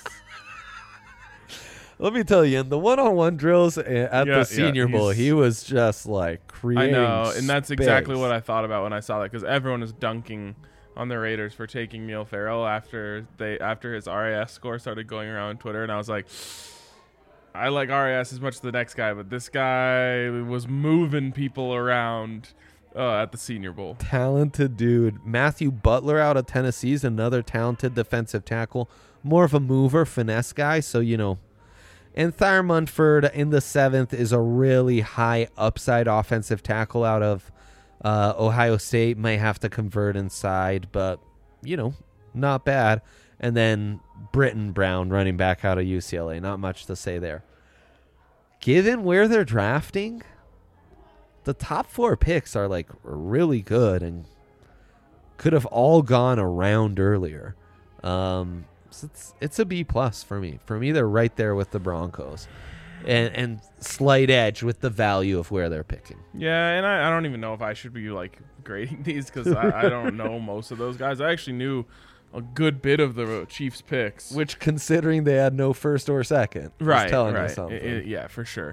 Let me tell you, in the one-on-one drills at the Senior Bowl, he was just like creating I know, and that's exactly space. what I thought about when I saw that because everyone was dunking on the Raiders for taking Neil Farrell after his RAS score started going around on Twitter, and I was like, I like RAS as much as the next guy, but this guy was moving people around at the Senior Bowl. Talented dude. Matthew Butler out of Tennessee is another talented defensive tackle. More of a mover, finesse guy, so, you know. And Thayer Munford in the 7th is a really high upside offensive tackle out of Ohio State. Might have to convert inside, but, you know, not bad. And then Britton Brown, running back out of UCLA. Not much to say there. Given where they're drafting, the top 4 picks are like really good and could have all gone around earlier. So it's a B plus for me. For me, they're right there with the Broncos, and slight edge with the value of where they're picking. Yeah, and I don't even know if I should be like grading these because I don't know most of those guys. I actually knew a good bit of the Chiefs picks, Which, considering they had no first or second, is telling you something. Yeah, for sure.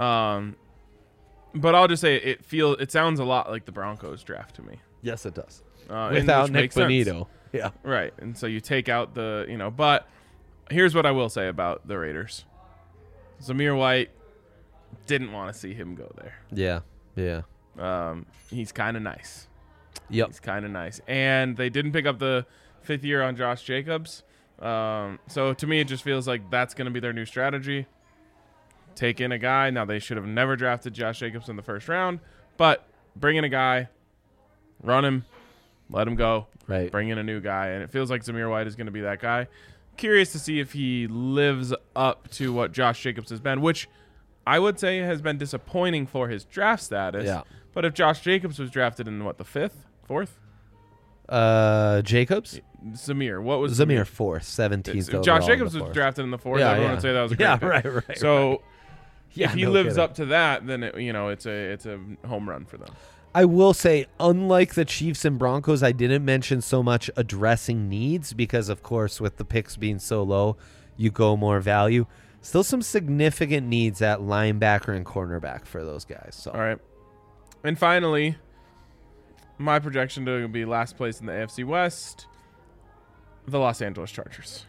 But I'll just say it sounds a lot like the Broncos draft to me. Yes, it does. Without Nick Bonito. Yeah. Right. And so you take out but here's what I will say about the Raiders. Zamir White, didn't want to see him go there. Yeah. He's kind of nice. Yep. He's kind of nice. And they didn't pick up the 5th year on Josh Jacobs. So to me, it just feels like that's going to be their new strategy. Take in a guy. Now, they should have never drafted Josh Jacobs in the first round, but bring in a guy, run him, let him go. Right. Bring in a new guy, and it feels like Zamir White is going to be that guy. Curious to see if he lives up to what Josh Jacobs has been, which I would say has been disappointing for his draft status. Yeah. But if Josh Jacobs was drafted in, the 5th? 4th? Jacobs? Zamir. What was Zamir 4th, 17th. If Josh Jacobs was drafted in the 4th, everyone would say that was a great pick. right. So Yeah, if he no lives kidding. up to that, then it's a home run for them. I will say, unlike the Chiefs and Broncos, I didn't mention so much addressing needs because, of course, with the picks being so low, you go more value. Still some significant needs at linebacker and cornerback for those guys. So. All right. And finally, my projection to be last place in the AFC West, the Los Angeles Chargers.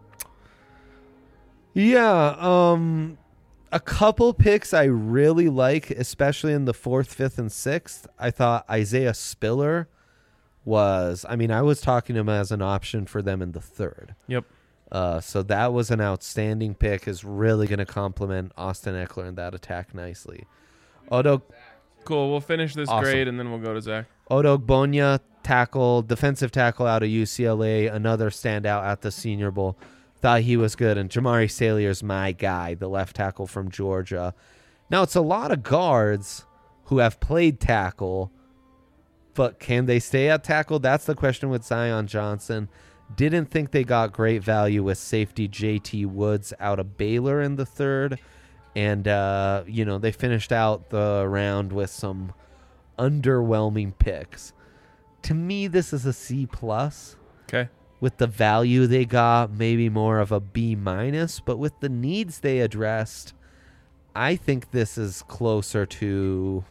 Yeah, a couple picks I really like, especially in the 4th, 5th, and 6th. I thought Isaiah Spiller was, I was talking to him as an option for them in the 3rd. Yep. So that was an outstanding pick, is really going to complement Austin Eckler in that attack nicely. Cool. We'll finish this Awesome. grade, and then we'll go to Zach. Odogbonya, defensive tackle out of UCLA, another standout at the Senior Bowl. Thought he was good. And Jamari Salier's my guy, the left tackle from Georgia. Now, it's a lot of guards who have played tackle, but can they stay at tackle? That's the question with Zion Johnson. Didn't think they got great value with safety JT Woods out of Baylor in the 3rd. And, they finished out the round with some underwhelming picks. To me, this is a C+. Okay. With the value they got, maybe more of a B-, but with the needs they addressed, I think this is closer to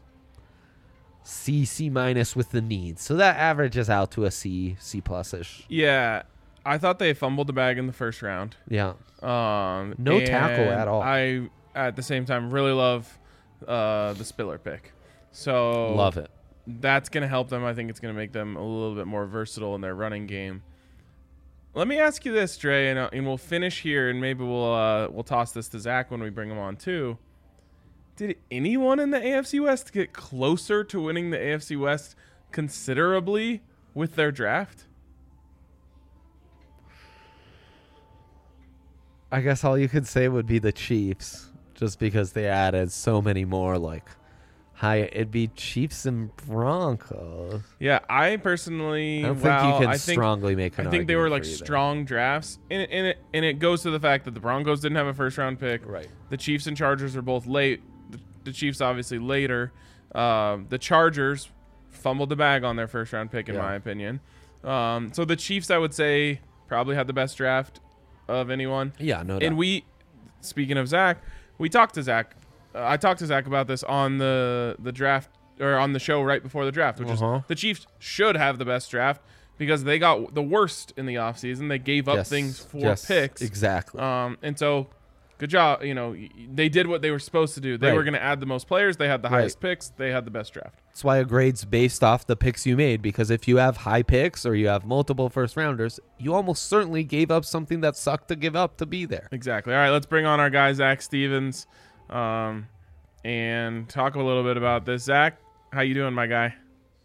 C-, C- with the needs. So that averages out to a C+ish. Yeah. I thought they fumbled the bag in the first round. Yeah. No tackle at all. I, at the same time, really love the Spiller pick. So Love it. That's going to help them. I think it's going to make them a little bit more versatile in their running game. Let me ask you this, Dre, and we'll finish here, and maybe we'll toss this to Zach when we bring him on too. Did anyone in the AFC West get closer to winning the AFC West considerably with their draft? I guess all you could say would be the Chiefs, just because they added so many more, like, it'd be Chiefs and Broncos. Yeah, I personally, I don't think you can strongly make an I think they were like argument for either. strong drafts, and it goes to the fact that the Broncos didn't have a first round pick. Right. The Chiefs and Chargers are both late. The Chiefs obviously later. The Chargers fumbled the bag on their first round pick, in my opinion. So the Chiefs, I would say, probably had the best draft of anyone. Yeah, no doubt. And speaking of Zach, we talked to Zach. I talked to Zach about this on the draft, or on the show right before the draft, which is the Chiefs should have the best draft because they got the worst in the offseason. They gave up things for picks. Exactly. And so good job. They did what they were supposed to do. They were going to add the most players. They had the highest picks. They had the best draft. That's why a grade's based off the picks you made, because if you have high picks or you have multiple first rounders, you almost certainly gave up something that sucked to give up to be there. Exactly. All right, let's bring on our guy, Zach Stevens, and talk a little bit about this. Zach, how you doing, my guy?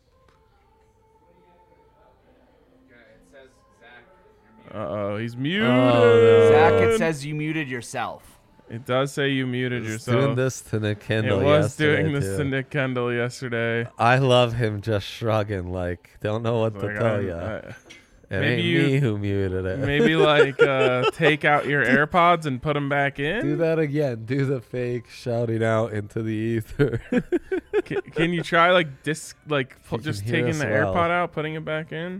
Uh-oh, he's muted. Oh, no. Zach, it says you muted yourself. It does say you muted yourself. Doing this to Nick Kendall. It was yesterday, doing this too. to Nick Kendall yesterday. I love him just shrugging, like, don't know what to tell you. It maybe ain't me who muted it. Maybe take out your AirPods and put them back in. Do that again. Do the fake shouting out into the ether. Can you try just can just hear taking us the well. AirPod out, putting it back in?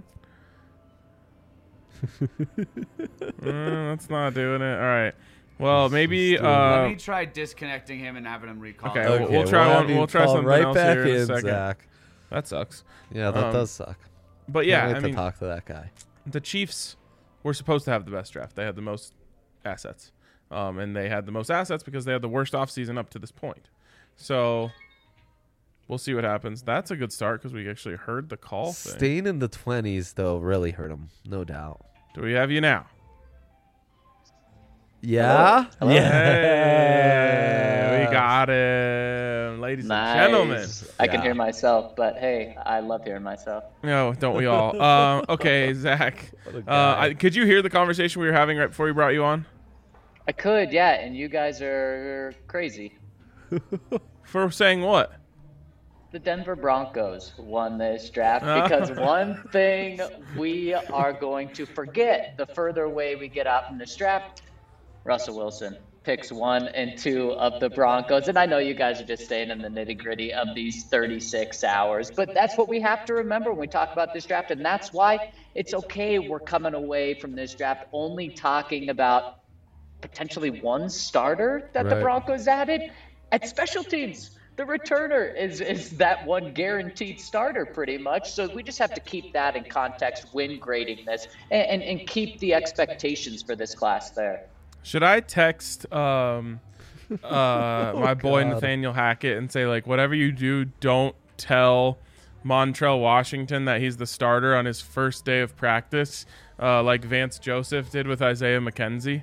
That's not doing it. All right. Well, maybe. Let me try disconnecting him and having him recall. Okay, we'll try one. We'll try something right else back here in a in, second. Zach. That sucks. Yeah, that does suck. But Can't yeah, wait to talk to that guy. The Chiefs were supposed to have the best draft. They had the most assets, and they had the most assets because they had the worst offseason up to this point. So we'll see what happens. That's a good start because we actually heard the call thing. Staying in the 20s, though, really hurt him. No doubt. Do we have you now? Yeah? Hello? Hey, we got him, ladies and gentlemen. I can hear myself, but hey, I love hearing myself. No, don't we all? Okay, Zach. Could you hear the conversation we were having right before we brought you on? I could, yeah, and you guys are crazy. For saying what? The Denver Broncos won this draft because one thing we are going to forget the further away we get out from this draft, Russell Wilson picks 1 and 2 of the Broncos. And I know you guys are just staying in the nitty-gritty of these 36 hours, but that's what we have to remember when we talk about this draft. And that's why it's okay we're coming away from this draft only talking about potentially one starter that the Broncos added at special teams. The returner is that one guaranteed starter pretty much. So we just have to keep that in context when grading this and keep the expectations for this class there. Should I text my boy Nathaniel Hackett and say, whatever you do, don't tell Montrell Washington that he's the starter on his first day of practice, like Vance Joseph did with Isaiah McKenzie?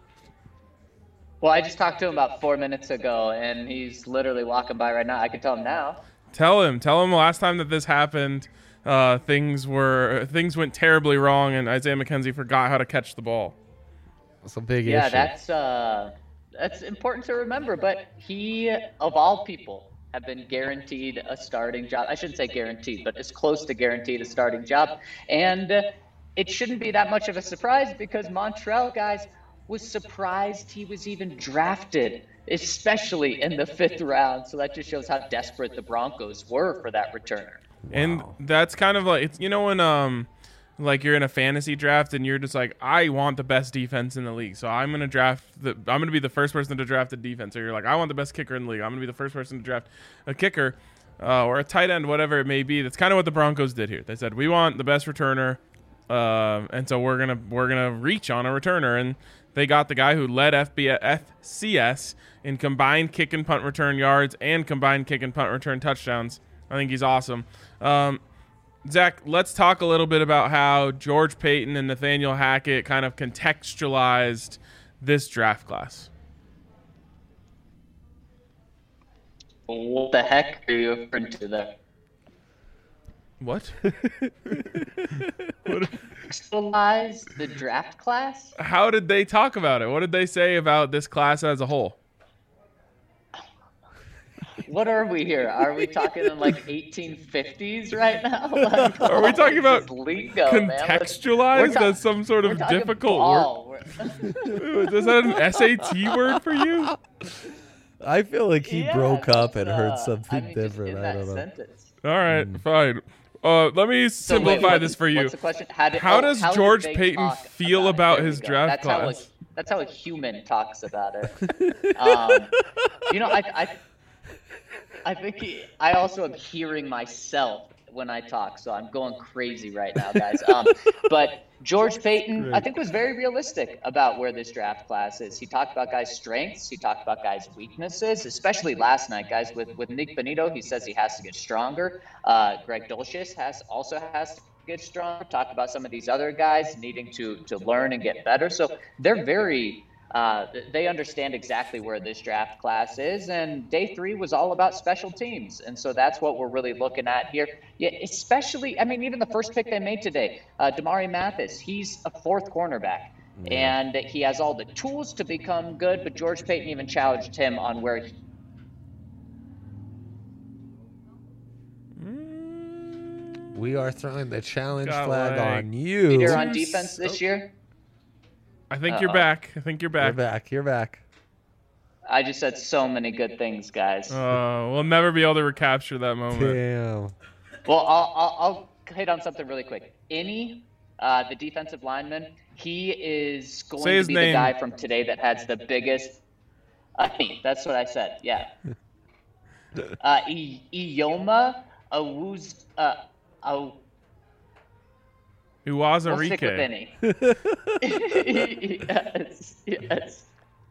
Well, I just talked to him about 4 minutes ago, and he's literally walking by right now. I can tell him now. Tell him last time that this happened, things went terribly wrong, and Isaiah McKenzie forgot how to catch the ball. That's a big issue. Yeah, that's important to remember. But he, of all people, have been guaranteed a starting job. I shouldn't say guaranteed, but as close to guaranteed a starting job. And it shouldn't be that much of a surprise because Montrell, guys, was surprised he was even drafted, especially in the 5th round. So that just shows how desperate the Broncos were for that returner. And that's kind of like, when you're in a fantasy draft and you're just like, I want the best defense in the league, so I'm going to be the first person to draft a defense. Or you're like, I want the best kicker in the league, I'm going to be the first person to draft a kicker or a tight end, whatever it may be. That's kind of what the Broncos did here. They said, we want the best returner And so we're gonna reach on a returner, and they got the guy who led FCS in combined kick and punt return yards and combined kick and punt return touchdowns. I think he's awesome. Zach, let's talk a little bit about how George Paton and Nathaniel Hackett kind of contextualized this draft class. What the heck are you referring to there? What? Contextualize the draft class? How did they talk about it? What did they say about this class as a whole? What are we here? Are we talking in like 1850s right now? Like, Are we talking about lingo, man? contextualized as some sort of difficult word? Is that an SAT word for you? I feel like he broke up and heard just something different. in I that don't know. sentence. All right, fine. Let me simplify this for you. What's the question? How does did George they Paton talk feel it? about There we his go. draft class? That's how a human talks about it. I think I also am hearing myself when I talk, so I'm going crazy right now, guys. But George Paton, I think, was very realistic about where this draft class is. He talked about guys' strengths. He talked about guys' weaknesses, especially last night, guys. With Nick Benito, he says he has to get stronger. Greg Dulcich also has to get stronger. Talked about some of these other guys needing to learn and get better. So they're very they understand exactly where this draft class is, and day 3 was all about special teams, and so that's what we're really looking at here. Yeah, especially, I mean, even the first pick they made today, Damari Mathis, he's a 4th cornerback, and he has all the tools to become good, but George Paton even challenged him on where he... We are throwing the challenge Got flag leg. on you. Peter on defense this year. I think you're back. I think you're You're back. back. You're back. I just said so many good things, guys. We'll never be able to recapture that moment. Damn. Well, I'll hit on something really quick. Innie, the defensive lineman, he is going Say to his be name. the guy from today that has the biggest. That's what I said. Yeah. Ioma Awuz. We'll stick with Uwazurike. Innie. Yes.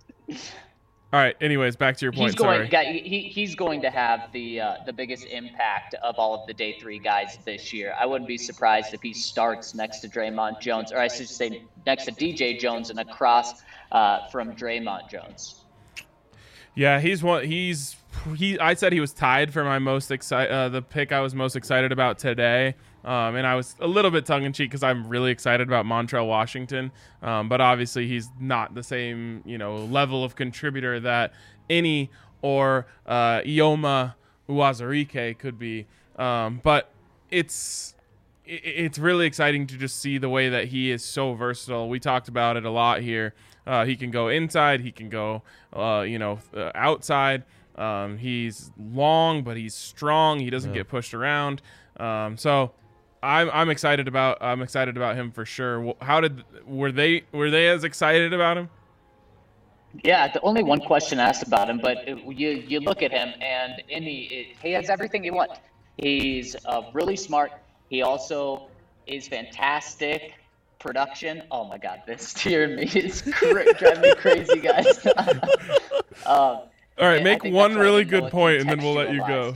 All right. Anyways, back to your point. Sorry. He's going to have the biggest impact of all of the day 3 guys this year. I wouldn't be surprised if he starts next to Draymond Jones, or I should say next to DJ Jones and across from Draymond Jones. Yeah, he's one. I said he was tied for my most the pick I was most excited about today. And I was a little bit tongue-in-cheek because I'm really excited about Montrell Washington. But obviously he's not the same, level of contributor that Innie or Ioma Uwazurike could be. But it's really exciting to just see the way that he is so versatile. We talked about it a lot here. He can go inside. He can go, outside. He's long, but he's strong. He doesn't get pushed around. So I'm excited about him for sure. Were they as excited about him? Yeah, the only one question asked about him, but you look at him and he has everything you want. He's really smart. He also is fantastic production. Oh my God, this tear me is driving me crazy, guys. All right, make one really good point, and then we'll let you go.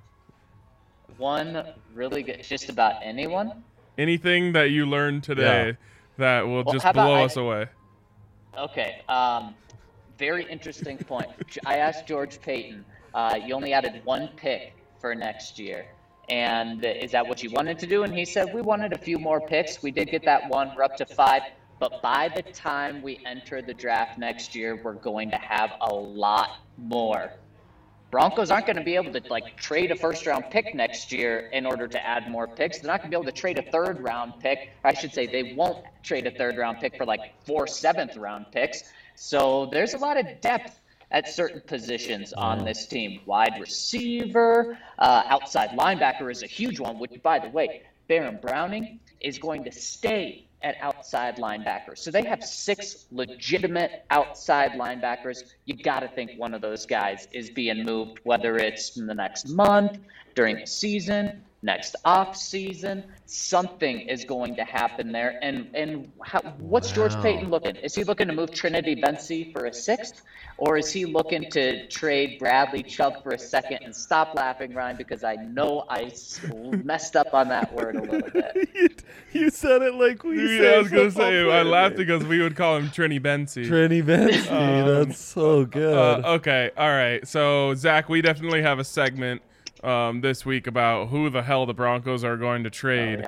One really good, just about anyone. Anything that you learned today that will just how about blow us away. Okay. Very interesting point. I asked George Paton, you only added 1 pick for next year. And is that what you wanted to do? And he said, we wanted a few more picks. We did get that 1. We're up to 5. But by the time we enter the draft next year, we're going to have a lot more. Broncos aren't going to be able to trade a 1st-round pick next year in order to add more picks. They're not going to be able to trade a 3rd-round pick. I should say they won't trade a 3rd-round pick for 4 7th-round picks. So there's a lot of depth at certain positions on this team. Wide receiver, outside linebacker is a huge one, which, by the way, Baron Browning is going to stay at outside linebacker. So they have 6 legitimate outside linebackers. You got to think one of those guys is being moved, whether it's in the next month, during the season, next off season. Something is going to happen there. And what's George Payton looking? Is he looking to move Trinity Bency for a 6th? Or is he looking to trade Bradley Chubb for a 2nd? And stop laughing, Ryan, because I know I messed up on that word a little bit. You said it like we Yeah, I was gonna say I laughed because we would call him Trini Bency. Trini Bency. That's so good. Okay, all right. So Zach, we definitely have a segment this week about who the hell the Broncos are going to trade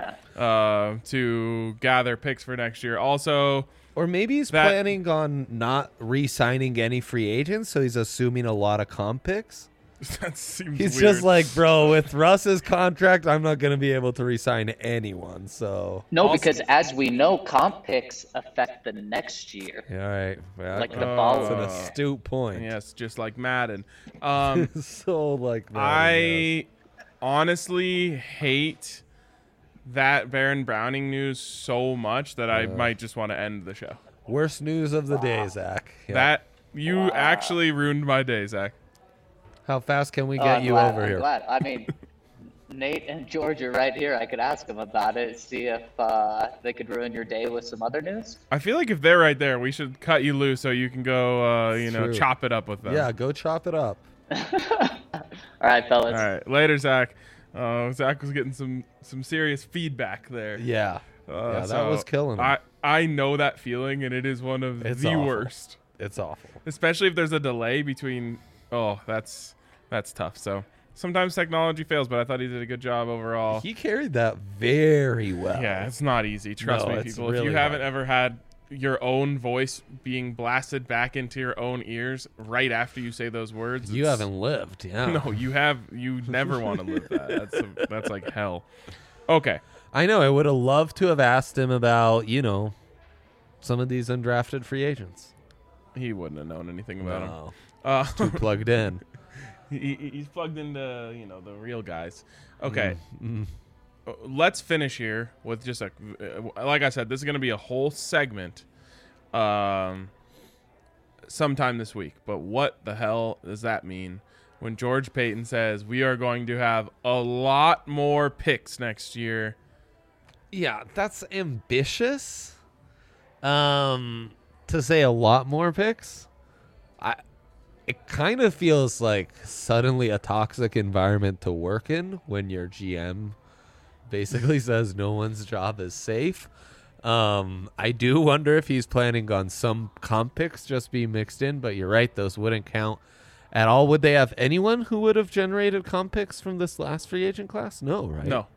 to gather picks for next year. Also, Or maybe he's planning on not re-signing any free agents, so he's assuming a lot of comp picks. that seems He's weird. just like, bro, with Russ's contract, I'm not going to be able to re-sign anyone. So No, because as we know, comp picks affect the next year. yeah, all right, well, Like the that's following. an astute point. yes, just like Madden. So like, man, I honestly hate that Baron Browning news so much that I might just want to end the show. worst news of the day, Zach. Yeah. That you actually ruined my day, Zach. How fast can we Oh, get I'm you glad, over I'm here? glad. I mean, Nate and George are right here. I could ask them about it, see if they could ruin your day with some other news. I feel like if they're right there, we should cut you loose so you can go, True. chop it up with them. Yeah, go chop it up. All right, fellas. All right. Later, Zach. Zach was getting some serious feedback there. Yeah, yeah, that so was killing him. I know that feeling, and it is one of It's the awful. worst. It's awful. Especially if there's a delay between. Oh, that's tough. So sometimes technology fails, but I thought he did a good job overall. He carried that very well. Yeah, it's not easy. Trust No, me, it's people. If really you haven't hard. ever had your own voice being blasted back into your own ears right after you say those words, You it's- haven't lived. Yeah. No, you have. You never want to live that. That's like hell. Okay. I know. I would have loved to have asked him about, some of these undrafted free agents. He wouldn't have known anything about him. No. Too plugged in. He's plugged into the real guys. Okay, Mm. let's finish here with just like I said, this is going to be a whole segment, sometime this week. But what the hell does that mean when George Payton says we are going to have a lot more picks next year? Yeah, that's ambitious. To say a lot more picks, it kind of feels like suddenly a toxic environment to work in when your GM basically says no one's job is safe. I do wonder if he's planning on some comp picks just be mixed in, but you're right, those wouldn't count at all. Would they have anyone who would have generated comp picks from this last free agent class? No, right? No.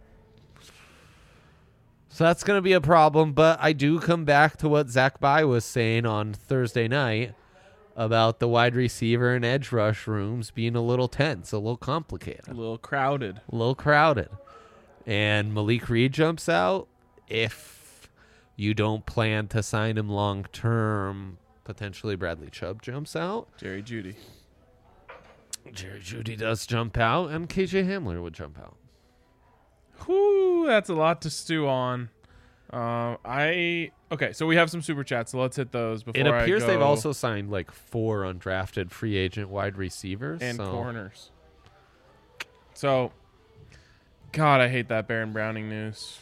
So that's going to be a problem, but I do come back to what Zach Bai was saying on Thursday night about the wide receiver and edge rush rooms being a little tense, a little complicated, A little crowded. a little crowded. And Malik Reed jumps out. If you don't plan to sign him long term, potentially Bradley Chubb jumps out. Jerry Jeudy. Jerry Jeudy does jump out, and KJ Hamler would jump out. Whew, that's a lot to stew on. Okay, so we have some super chats, so let's hit those before It appears I they've go. also signed like 4 undrafted free agent wide receivers. And so. corners. So, God, I hate that Baron Browning news.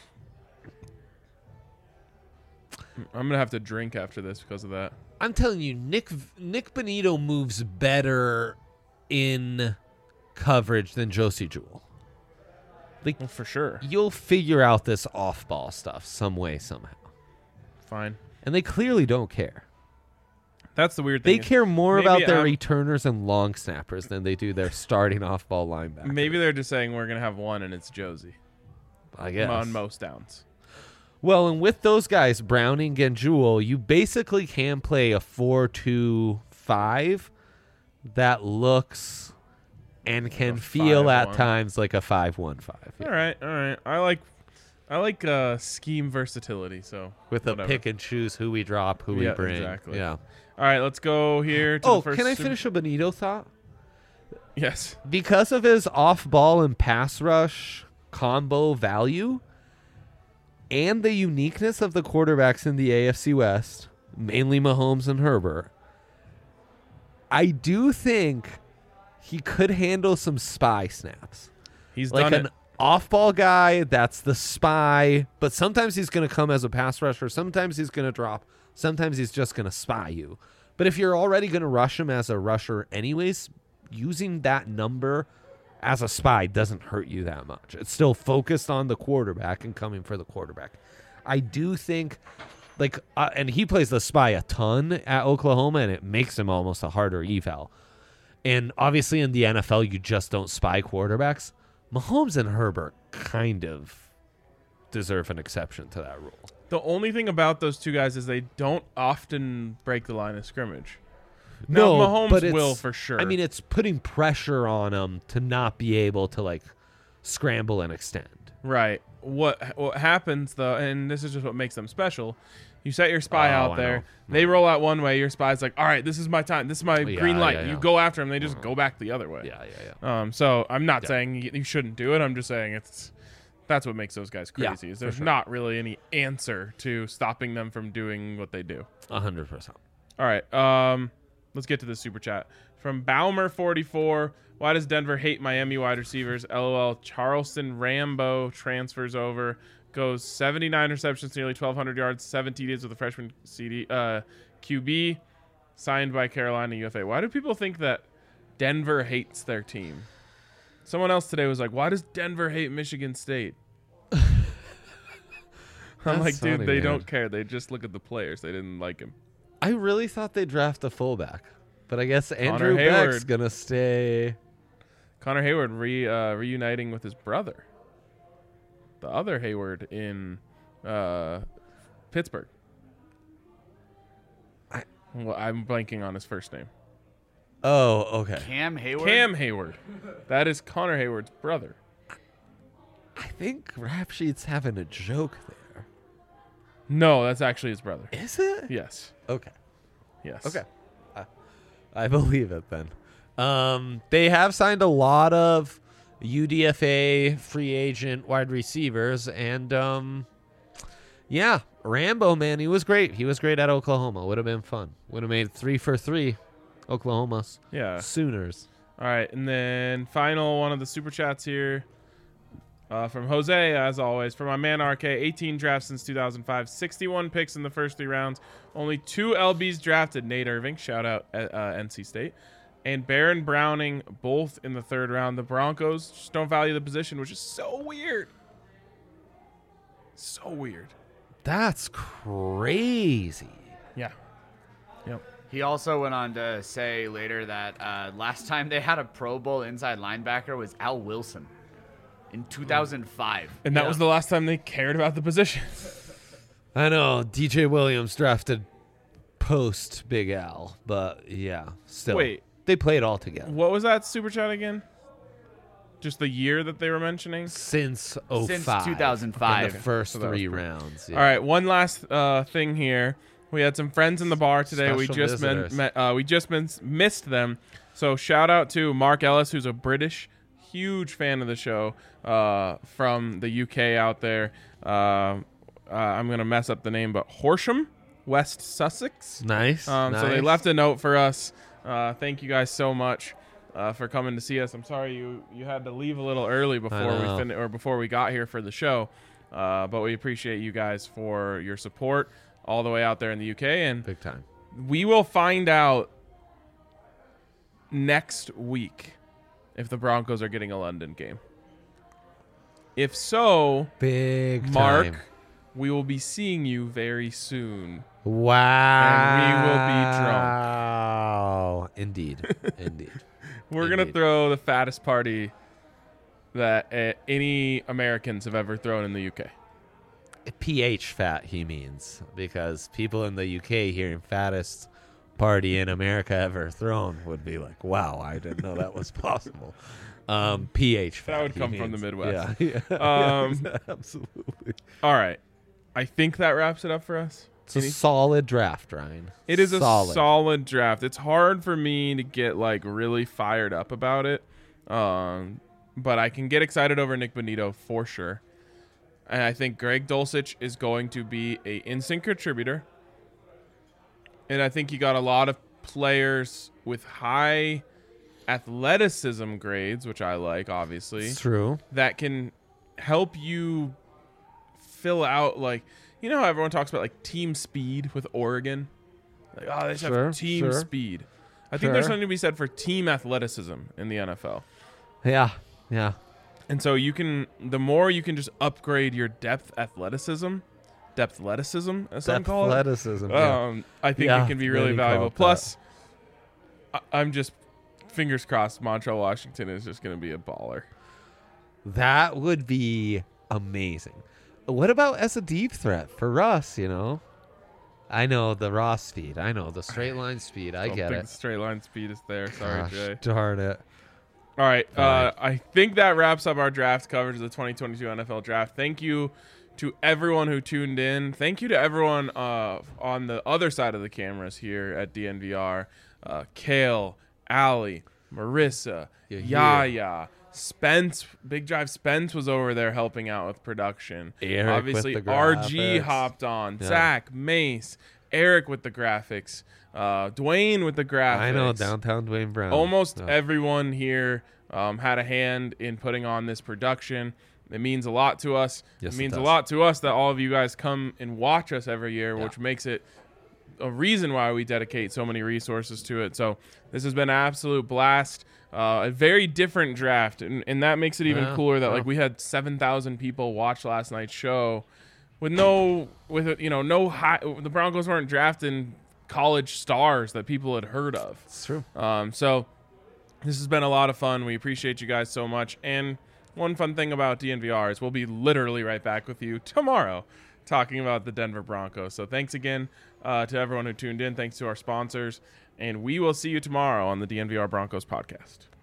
I'm gonna have to drink after this because of that. I'm telling you, Nick Bonito moves better in coverage than Josie Jewell. Like, Well, for sure. you'll figure out this off-ball stuff some way, somehow. Fine. And they clearly don't care. That's the weird They thing. care more maybe about their I'm- returners and long snappers than they do their starting off-ball linebacker. Maybe they're just saying we're gonna have one, and it's Josie I guess. on most downs. Well, and with those guys, Browning and Jewell, you basically can play a 4-2-5 that looks and can a feel at 5-1. times like a 5-1-5. All right. I like scheme versatility. So With whatever. a pick and choose who we drop, who we Yeah, bring. exactly. Yeah. All right, let's go here. To Oh, the first can I super- finish a Bonito thought? Yes. Because of his off-ball and pass rush combo value and the uniqueness of the quarterbacks in the AFC West, mainly Mahomes and Herbert, I do think he could handle some spy snaps. He's Like done it. off-ball guy. That's the spy. But sometimes he's going to come as a pass rusher. Sometimes he's going to drop. Sometimes he's just going to spy you. But if you're already going to rush him as a rusher anyways, using that number as a spy doesn't hurt you that much. It's still focused on the quarterback and coming for the quarterback. I do think, and he plays the spy a ton at Oklahoma, and it makes him almost a harder eval. And obviously in the NFL, you just don't spy quarterbacks. Mahomes and Herbert kind of deserve an exception to that rule. The only thing about those two guys is they don't often break the line of scrimmage. No, now, Mahomes but will for sure. I mean, it's putting pressure on him to not be able to scramble and extend. Right. What happens though, and this is just what makes them special. You set your spy out there. They roll out one way. Your spy's like, all right, this is my time. This is my green light. You go after them. They just go back the other way. Yeah. So I'm not saying you shouldn't do it. I'm just saying that's what makes those guys crazy. Is there's not really any answer to stopping them from doing what they do. 100%. All right. Let's get to the super chat from Baumer44. Why does Denver hate Miami wide receivers? LOL. Charleston Rambo transfers over. Goes 79 receptions, nearly 1,200 yards, 7 TDs with a freshman QB, signed by Carolina UFA. Why do people think that Denver hates their team? Someone else today was like, why does Denver hate Michigan State? I'm like, dude, they don't care. They just look at the players. They didn't like him. I really thought they'd draft a fullback, but I guess Andrew Beck's going to stay. Connor Hayward reuniting with his brother. The other Hayward in Pittsburgh. I'm blanking on his first name. Oh, okay. Cam Hayward? Cam Hayward. That is Connor Hayward's brother. I think Rap Sheet's having a joke there. No, that's actually his brother. Is it? Yes. Okay. Yes. Okay. I believe it then. They have signed a lot of UDFA free agent wide receivers, and Rambo, man, he was great. He was great at Oklahoma. Would have been fun. Would have made 3 for 3 Oklahoma's Sooners. All right, and then final one of the super chats here from Jose, as always. For my man RK, 18 drafts since 2005, 61 picks in the first 3 rounds, only 2 LBs drafted. Nate Irving, shout out NC State, and Baron Browning, both in the 3rd round. The Broncos just don't value the position, which is so weird. So weird. That's crazy. Yeah. Yep. He also went on to say later that last time they had a Pro Bowl inside linebacker was Al Wilson in 2005. And that was the last time they cared about the position. I know. DJ Williams drafted post Big Al, but still. Wait. They played all together. What was that super chat again? Just the year that they were mentioning? Since 05. Since 2005. In the first So that 3 was rounds. All right, one last thing here. We had some friends in the bar today. Special We just missed them. So shout out to Mark Ellis, who's a British, huge fan of the show from the UK out there. I'm going to mess up the name, but Horsham, West Sussex. Nice. So they left a note for us. Thank you guys so much for coming to see us. I'm sorry you had to leave a little early before we got here for the show, but we appreciate you guys for your support all the way out there in the UK, and big time. We will find out next week if the Broncos are getting a London game. If so, big Mark, time. we will be seeing you very soon. Wow. And we will be drunk. Indeed. We're going to throw the fattest party that any Americans have ever thrown in the UK. PH fat, he means, because people in the UK hearing fattest party in America ever thrown would be like, wow, I didn't know that was possible. PH fat. That would come from the Midwest. Yeah. Absolutely. All right. I think that wraps it up for us. It's a solid draft, Ryan. It is a solid draft. It's hard for me to get really fired up about it, but I can get excited over Nick Bonito for sure. And I think Greg Dulcich is going to be an instant contributor. And I think you got a lot of players with high athleticism grades, which I like, obviously. It's true. That can help you fill out, like, you know how everyone talks about like team speed with Oregon? Like, oh, they just have team speed. I think there's something to be said for team athleticism in the NFL. Yeah. And so the more you can just upgrade your depthleticism, as some call it. I think it can be really valuable. Plus, I'm just fingers crossed Montreal Washington is just going to be a baller. That would be amazing. What about as a deep threat for Russ, I know the raw speed. I know the straight line speed. I get it. The straight line speed is there. Sorry, Gosh, Jay. Darn it. All right. I think that wraps up our draft coverage of the 2022 NFL Draft. Thank you to everyone who tuned in. Thank you to everyone on the other side of the cameras here at DNVR. Kale, Allie, Marissa, Yaya, Spence, Big Drive Spence was over there helping out with production. Eric Obviously, with the RG graphics. hopped on. Yeah. Zach, Mace, Eric with the graphics. Dwayne with the graphics. I know, downtown Dwayne Brown. Almost everyone here had a hand in putting on this production. It means a lot to us. Yes, it means it a does. lot to us that all of you guys come and watch us every year, which makes it a reason why we dedicate so many resources to it. So this has been an absolute blast. A very different draft, and that makes it even cooler that like we had 7,000 people watch last night's show with no high. The Broncos weren't drafting college stars that people had heard of. It's true. So this has been a lot of fun. We appreciate you guys so much. And one fun thing about DNVR is we'll be literally right back with you tomorrow talking about the Denver Broncos. So thanks again to everyone who tuned in. Thanks to our sponsors. And we will see you tomorrow on the DNVR Broncos podcast.